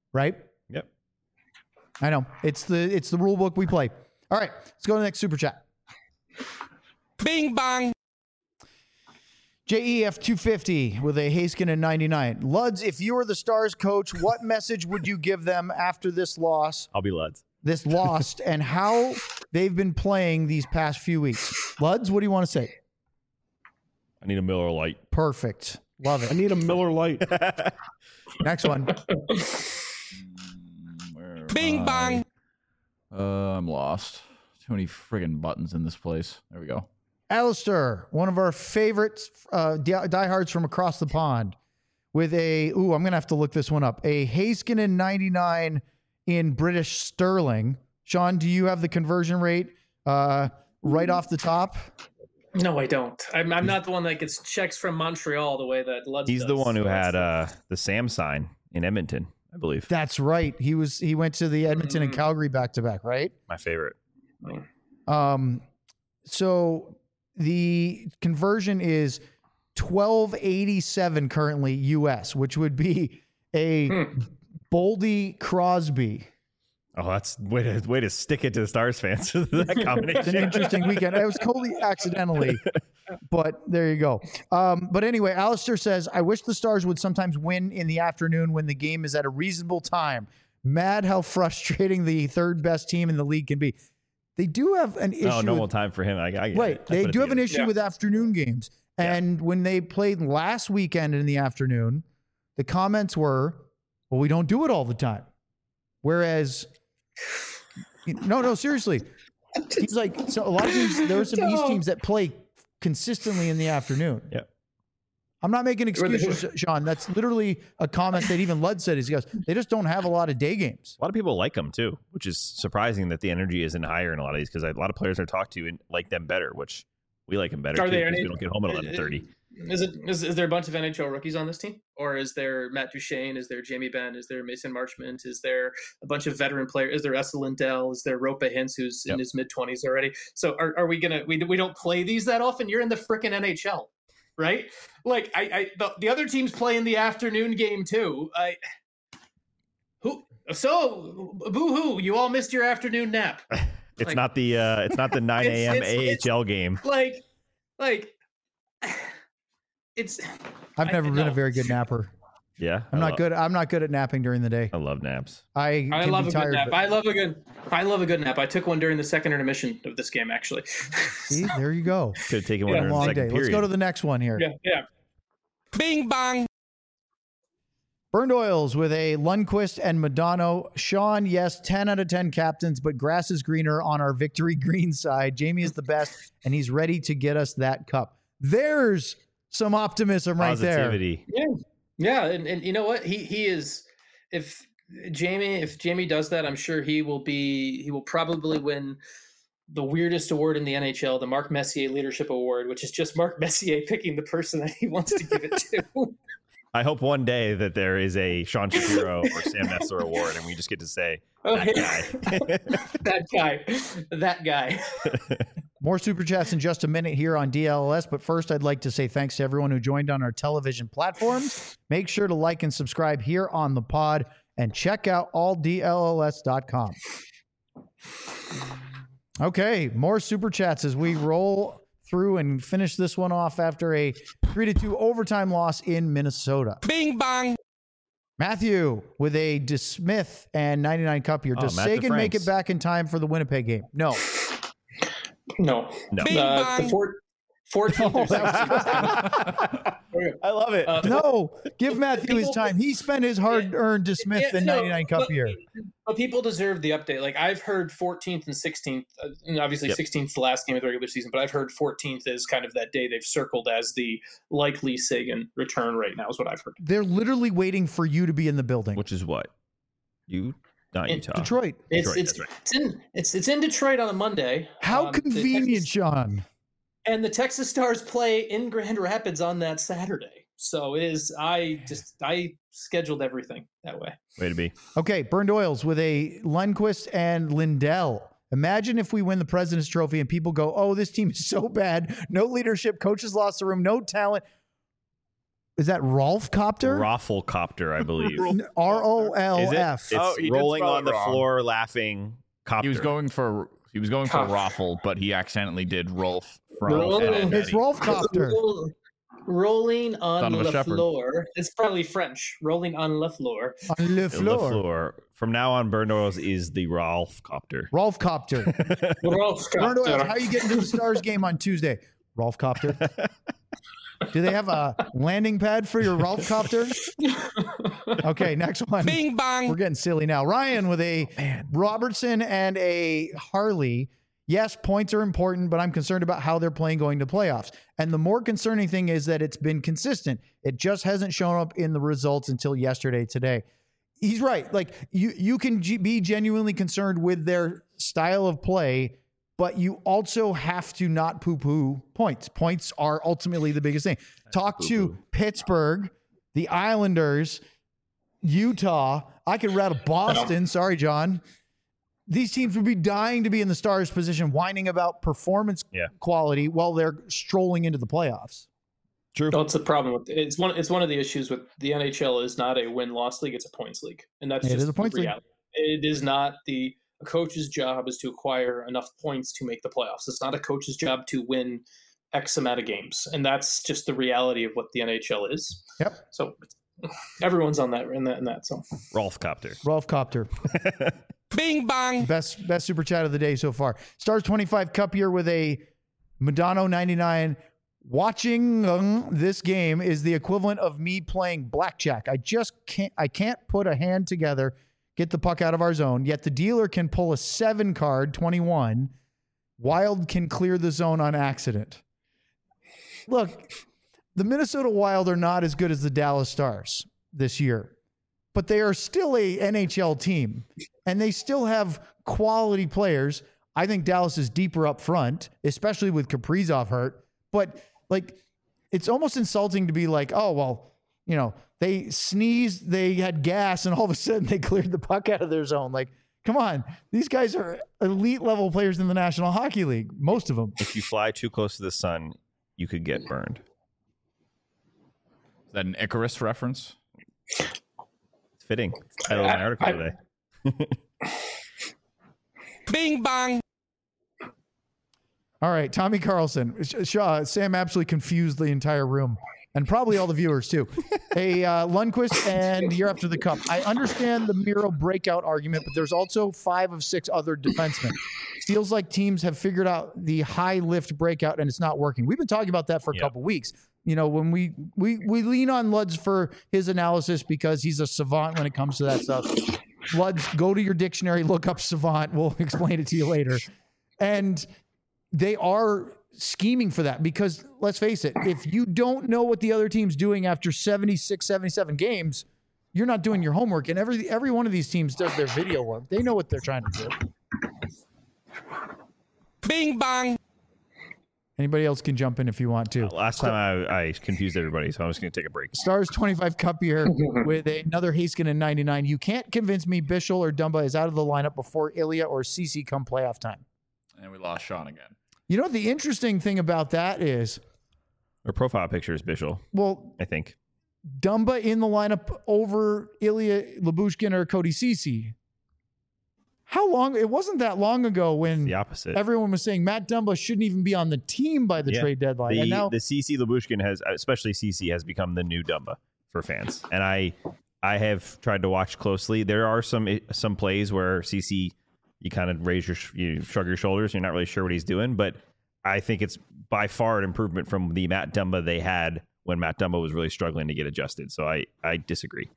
right? Yep. I know. It's the rule book we play. All right, let's go to the next super chat. Bing bong. JEF 250 with a Haskinen 99. Luds, if you were the Stars coach, what message would you give them after this loss? I'll be Luds. This lost and how they've been playing these past few weeks. Luds, what do you want to say? I need a Miller Lite. Perfect. Love I it. need a Miller Lite. Next one. Bing bong. I'm lost. Too many friggin' buttons in this place. There we go. Alistair, one of our favorites, diehards from across the pond, with a, I'm going to have to look this one up, a Haskinen 99 in British sterling. Sean, do you have the conversion rate right off the top? No, I don't. I'm not the one that gets checks from Montreal the way that Lutz He's does. the one who So had that's- the Sam sign in Edmonton, I believe. That's right. He went to the Edmonton and Calgary back-to-back, right? My favorite. So the conversion is 1287 currently US, which would be a Boldy Crosby. Oh, that's way to stick it to the Stars fans. That It's an combination. interesting weekend. It was totally accidentally, but there you go. But anyway, Alistair says, I wish the Stars would sometimes win in the afternoon when the game is at a reasonable time. Mad how frustrating the third best team in the league can be. They do have an issue. No, normal with, time for him. I get right. it. They do have an issue Yeah. with afternoon games. And when they played last weekend in the afternoon, the comments were, well, we don't do it all the time. Whereas, no, seriously. He's like, so a lot of teams, there are some East teams that play consistently in the afternoon. Yeah. I'm not making excuses, Sean. That's literally a comment that even Lud said. He goes, they just don't have a lot of day games. A lot of people like them too, which is surprising that the energy isn't higher in a lot of these because a lot of players I talk to and like them better, which we like them better Are too there because any- we don't get home at 11:30. Is there a bunch of NHL rookies on this team, or is there Matt Duchene? Is there Jamie Benn? Is there Mason Marchment? Is there a bunch of veteran players? Is there Essa Lindell? Is there Rope Hintz, who's in his mid-20s already? So are we gonna? We don't play these that often. You're in the frickin' NHL, right? Like the other teams play in the afternoon game too. Boo-hoo! You all missed your afternoon nap. It's not the 9 a.m. it's- AHL game. Like it's. I've never been a no. very good napper. Yeah, I'm not good. I'm not good at napping during the day. I love naps. I can love be a tired. good nap. but- I love a good nap. I took one during the second intermission of this game, actually. See, there you go. Could have taken one Yeah. in the Long second day. period. Let's go to the next one here. yeah. Bing bong. Burned Oils with a Lundqvist and Madonna. Sean, yes, 10 out of 10 captains, but grass is greener on our victory green side. Jamie is the best, and he's ready to get us that cup. There's some optimism right there. Positivity. Yeah, and you know what? He is. If Jamie does that, I'm sure he will probably win the weirdest award in the NHL, the Mark Messier Leadership Award, which is just Mark Messier picking the person that he wants to give it to. I hope one day that there is a Sean Shapiro or Sam Nessler award, and we just get to say Okay. that guy. that guy. More super chats in just a minute here on DLS, but first I'd like to say thanks to everyone who joined on our television platforms. Make sure to like and subscribe here on the pod and check out alldls.com. Okay, more super chats as we roll through and finish this one off after a 3-2 overtime loss in Minnesota. Bing bong. Matthew with a DeSmith and 99 cup here. Does Matt Sagan make DeFranks. it back in time for the Winnipeg game? No. No. No. Bing bong. The 14th or 17th. I love it. No, give Matthew his time. He spent his hard-earned DeSmith Yeah, and no, 99 cup but- here. But people deserve the update. Like I've heard 14th and 16th, and obviously Yep. 16th the last game of the regular season. But I've heard 14th is kind of that day they've circled as the likely Sagan return right now. Is what I've heard. They're literally waiting for you to be in the building. Which is what? Not In Utah. Detroit. It's Detroit, it's, that's right. it's in Detroit on a Monday. How The convenient, Texas- Sean. and the Texas Stars play in Grand Rapids on that Saturday. So it is. I scheduled everything that way. Way to be. Okay, Burned Oils with a Lundqvist and Lindell. Imagine if we win the President's Trophy and people go, oh, this team is so bad. No leadership. Coaches lost the room. No talent. Is that Rolf Copter? Rafflecopter, I believe. Is ROLF. it? Oh, It's he did rolling spell on it the wrong. floor, laughing. Copter. He was going for Cough. Raffle, but he accidentally did Rolf from Roll- Ed, Ed, and It's Eddie. Rolf Copter. Rolling Son on of a the shepherd. floor. It's probably French. Rolling on the floor. On le The floor. floor. From now on, Burn Oils is the Rolf Copter. Rolf Copter. Rolf Bernardo, Copter. how you getting to the Stars game on Tuesday? Rolf Copter. Do they have a landing pad for your Rolf Copter? Okay, next one. Bing bang. We're getting silly now. Ryan with a Robertson and a Harley. Yes, points are important, but I'm concerned about how they're playing going to playoffs. And the more concerning thing is that it's been consistent. It just hasn't shown up in the results until yesterday, today. He's right. Like you can be genuinely concerned with their style of play, but you also have to not poo-poo points. Points are ultimately the biggest thing. Talk to Pittsburgh, the Islanders, Utah. I could rattle Boston. Sorry, John. These teams would be dying to be in the Stars position, whining about performance quality while they're strolling into the playoffs. True. That's the problem with it's one of the issues with the NHL is not a win-loss league, it's a points league. And that's It just is a points the league. reality. It is not a coach's job is to acquire enough points to make the playoffs. It's not a coach's job to win X amount of games. And that's just the reality of what the NHL is. Yep. So everyone's on that in that. So Rolf Copter. Rolf Copter. Bing bang. Best super chat of the day so far. Stars 25 Cup here with a Madonna 99. Watching this game is the equivalent of me playing blackjack. I can't put a hand together, get the puck out of our zone, yet the dealer can pull a 7 card, 21. Wild can clear the zone on accident. Look, the Minnesota Wild are not as good as the Dallas Stars this year, but they are still a NHL team, and they still have quality players. I think Dallas is deeper up front, especially with Kaprizov hurt. But like, it's almost insulting to be like, oh, well, you know, they sneezed, they had gas, and all of a sudden they cleared the puck out of their zone. Like, come on. These guys are elite level players in the National Hockey League, most of them. If you fly too close to the sun, you could get burned. Is that an Icarus reference? It's fitting. Title of my article today. Bing bang. All right, Tommy Carlson. Sam absolutely confused the entire room, and probably all the viewers too. Lundqvist, and you're after the cup. I understand the Miro breakout argument, but there's also 5 of 6 other defensemen. Feels like teams have figured out the high lift breakout, and it's not working. We've been talking about that for a couple weeks. You know, when we lean on Luds for his analysis because he's a savant when it comes to that stuff. Luds, go to your dictionary, look up savant. We'll explain it to you later. And they are scheming for that because, let's face it, if you don't know what the other team's doing after 76, 77 games, you're not doing your homework. And every one of these teams does their video work. They know what they're trying to do. Bing bang. Anybody else can jump in if you want to. Last time I confused everybody, so I'm just going to take a break. Stars 25 Cup here with another Haskin and 99. You can't convince me Bischel or Dumba is out of the lineup before Ilya or Ceci come playoff time. And we lost Sean again. You know what the interesting thing about that is? Her profile picture is Bischel, Well, I think. Dumba in the lineup over Ilya Lyubushkin or Cody Ceci. How long? It wasn't that long ago when The opposite. everyone was saying Matt Dumba shouldn't even be on the team by the trade deadline. And now The CC Lyubushkin has, especially CC, has become the new Dumba for fans. And I have tried to watch closely. There are some plays where CC, you kind of you shrug your shoulders. You're not really sure what he's doing, but I think it's by far an improvement from the Matt Dumba they had when Matt Dumba was really struggling to get adjusted. So I disagree.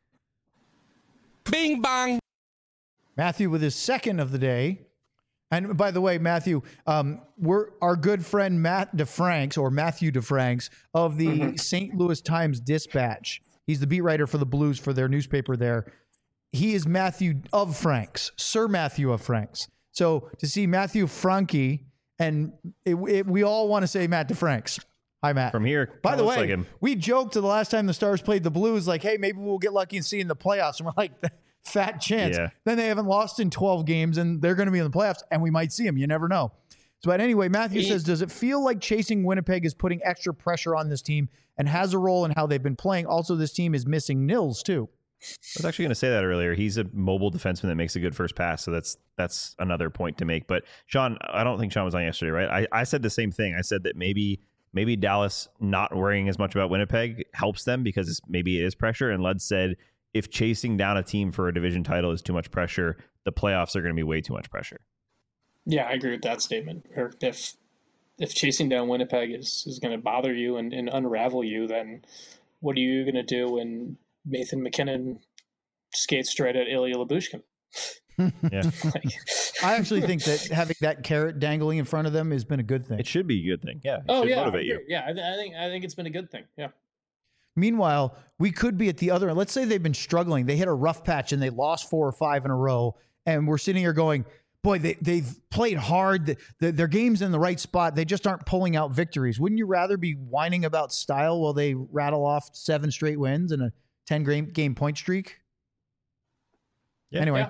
Bing bang. Matthew with his second of the day. And by the way, Matthew, we're our good friend Matt DeFranks or Matthew DeFranks of the St. Louis Times Dispatch. He's the beat writer for the Blues for their newspaper there. He is Matthew of Franks, Sir Matthew of Franks. So to see Matthew Frankie, and we all want to say Matt DeFranks. Hi, Matt. From here, By the looks way, like him. we joked the last time the Stars played the Blues, like, hey, maybe we'll get lucky and see in the playoffs. And we're like, fat chance. Yeah. Then they haven't lost in 12 games, and they're going to be in the playoffs, and we might see them. You never know. But anyway, Matthew says, does it feel like chasing Winnipeg is putting extra pressure on this team and has a role in how they've been playing? Also, this team is missing Nils too. I was actually going to say that earlier. He's a mobile defenseman that makes a good first pass, so that's another point to make. But Sean, I don't think Sean was on yesterday, right? I said the same thing. I said that maybe Dallas not worrying as much about Winnipeg helps them because maybe it is pressure. And Lud said if chasing down a team for a division title is too much pressure, the playoffs are going to be way too much pressure. Yeah, I agree with that statement. Or if chasing down Winnipeg is going to bother you and unravel you, then what are you going to do when Nathan McKinnon skates straight at Ilya Lyubushkin? Yeah. I actually think that having that carrot dangling in front of them has been a good thing. It should be a good thing. Yeah. It Oh should yeah, motivate you. yeah. I think it's been a good thing. Yeah. Meanwhile, we could be at the other end. Let's say they've been struggling. They hit a rough patch and they lost 4 or 5 in a row. And we're sitting here going, boy, they've played hard. Their game's in the right spot. They just aren't pulling out victories. Wouldn't you rather be whining about style while they rattle off 7 straight wins and a 10-game point streak? Yeah. Anyway,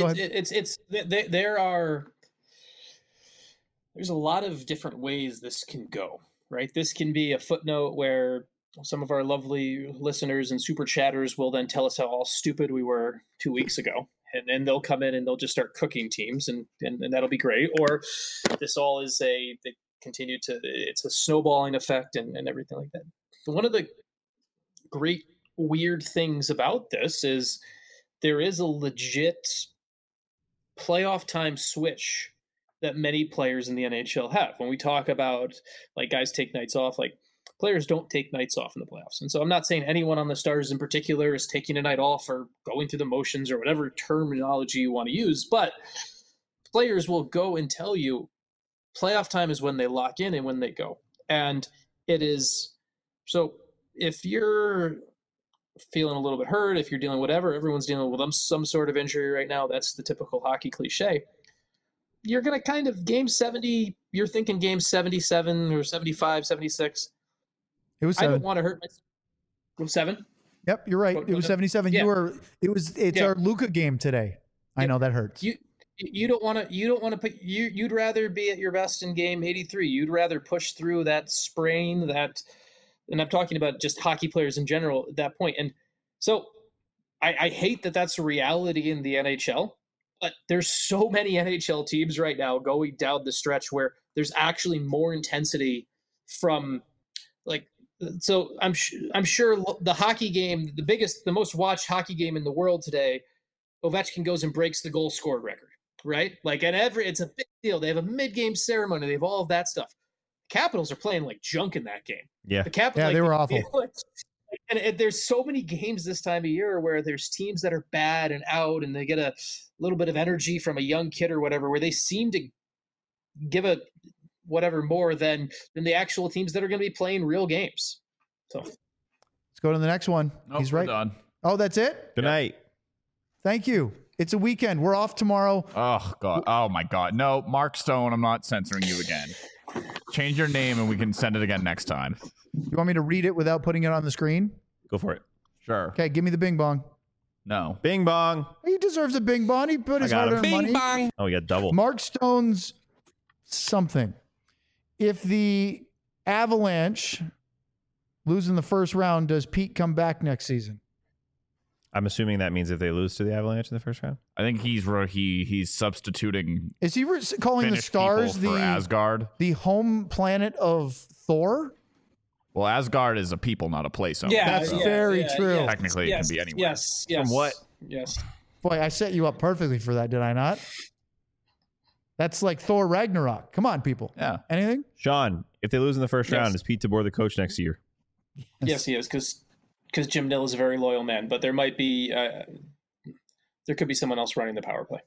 there's a lot of different ways this can go, right? This can be a footnote where some of our lovely listeners and super chatters will then tell us how all stupid we were 2 weeks ago. And then they'll come in and they'll just start cooking teams and that'll be great. Or this all is they continue to, it's a snowballing effect and everything like that. But one of the great weird things about this is there is a legit playoff time switch that many players in the NHL have. When we talk about like guys take nights off, like players don't take nights off in the playoffs. And so I'm not saying anyone on the Stars in particular is taking a night off or going through the motions or whatever terminology you want to use, but players will go and tell you playoff time is when they lock in and when they go. And it is, so if you're feeling a little bit hurt, if you're dealing whatever, everyone's dealing with some sort of injury right now. That's the typical hockey cliche. You're going to kind of game 70, you're thinking game 77 or 75, 76. It was 7. I don't want to hurt myself. 7? Yep, you're right. It was 77. Yeah. It's our Luka game today. I know that hurts. You don't want to put you'd rather be at your best in game 83. You'd rather push through that sprain, and I'm talking about just hockey players in general at that point. And so I hate that that's a reality in the NHL, but there's so many NHL teams right now going down the stretch where there's actually more intensity from like, so I'm sure the hockey game, the most watched hockey game in the world today, Ovechkin goes and breaks the goal scored record, right? Like it's a big deal. They have a mid-game ceremony. They have all of that stuff. Capitals are playing like junk in that game. Yeah. The Capitals, yeah, they were awful. And there's so many games this time of year where there's teams that are bad and out and they get a little bit of energy from a young kid or whatever, where they seem to give a whatever more than the actual teams that are going to be playing real games. So let's go to the next one. Nope, He's right. We're done. Oh, that's it? Good night. Thank you. It's a weekend. We're off tomorrow. Oh, God. Oh, my God. No, Mark Stone, I'm not censoring you again. Change your name and we can send it again next time. You want me to read it without putting it on the screen? Go for it. Sure. Okay, give me the bing bong. No. Bing bong. He deserves a bing bong. He put his got him. hard-earned money. Bing bong. Oh, we got double. Mark Stone's something. If the Avalanche lose in the first round, does Pete come back next season? I'm assuming that means if they lose to the Avalanche in the first round. I think he's substituting Is he calling the Finnish Stars people for Asgard. the home planet of Thor? Well, Asgard is a people, not a place. That's very true. Technically, it can be anywhere. Yes. From what? Yes. Boy, I set you up perfectly for that, did I not? That's like Thor Ragnarok. Come on, people. Yeah. Anything? Sean, if they lose in the first Yes. round, is Pete DeBoer the coach next year? Yes, he is, because Jim Nill is a very loyal man, but there might be there could be someone else running the power play.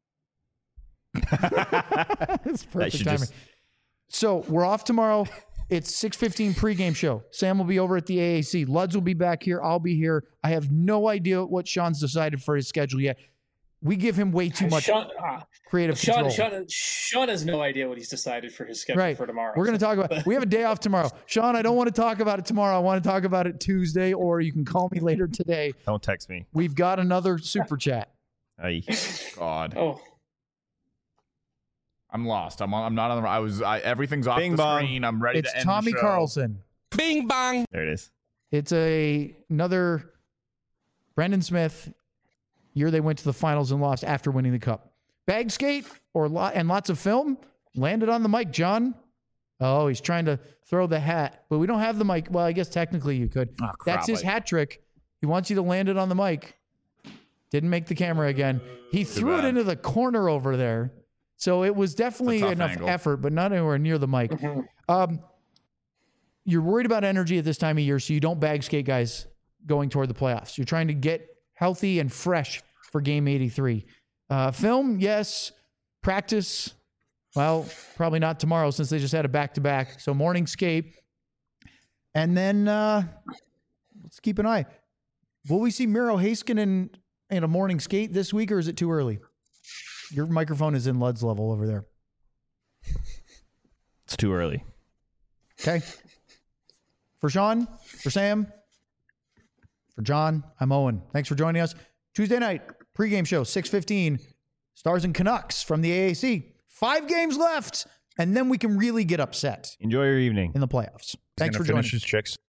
That's perfect should timing. just- So we're off tomorrow. It's 6:15 pregame show. Sam will be over at the AAC. Luds will be back here. I'll be here. I have no idea what Sean's decided for his schedule yet. We give him way too much creative control. Sean has no idea what he's decided for his schedule for tomorrow. We're going to talk about we have a day off tomorrow. Sean, I don't want to talk about it tomorrow. I want to talk about it Tuesday, or you can call me later today. Don't text me. We've got another super chat. Aye. God. Oh, I'm lost. I'm not on the. Everything's off Bing the bong. screen. I'm ready It's to end Tommy the show. Carlson. Bing bang. There it is. It's another Brendan Smith year they went to the finals and lost after winning the cup. Bag skate and lots of film landed on the mic, John. Oh, he's trying to throw the hat, but we don't have the mic. Well, I guess technically you could. Oh, That's his hat trick. He wants you to land it on the mic. Didn't make the camera again. He threw it bad. into the corner over there. So it was definitely It's a tough enough angle. effort, but not anywhere near the mic. You're worried about energy at this time of year, so you don't bag skate guys going toward the playoffs. You're trying to get healthy and fresh for game 83. Film, yes. Practice, well, probably not tomorrow since they just had a back-to-back. So morning skate. And then let's keep an eye. Will we see Miro Heiskanen in a morning skate this week, or is it too early? Your microphone is in Lud's level over there. It's too early. Okay. For Sean, for Sam, for John, I'm Owen. Thanks for joining us. Tuesday night, pregame show, 6:15. Stars and Canucks from the AAC. 5 games left, and then we can really get upset Enjoy your evening. in the playoffs. Thanks for joining. His chicks.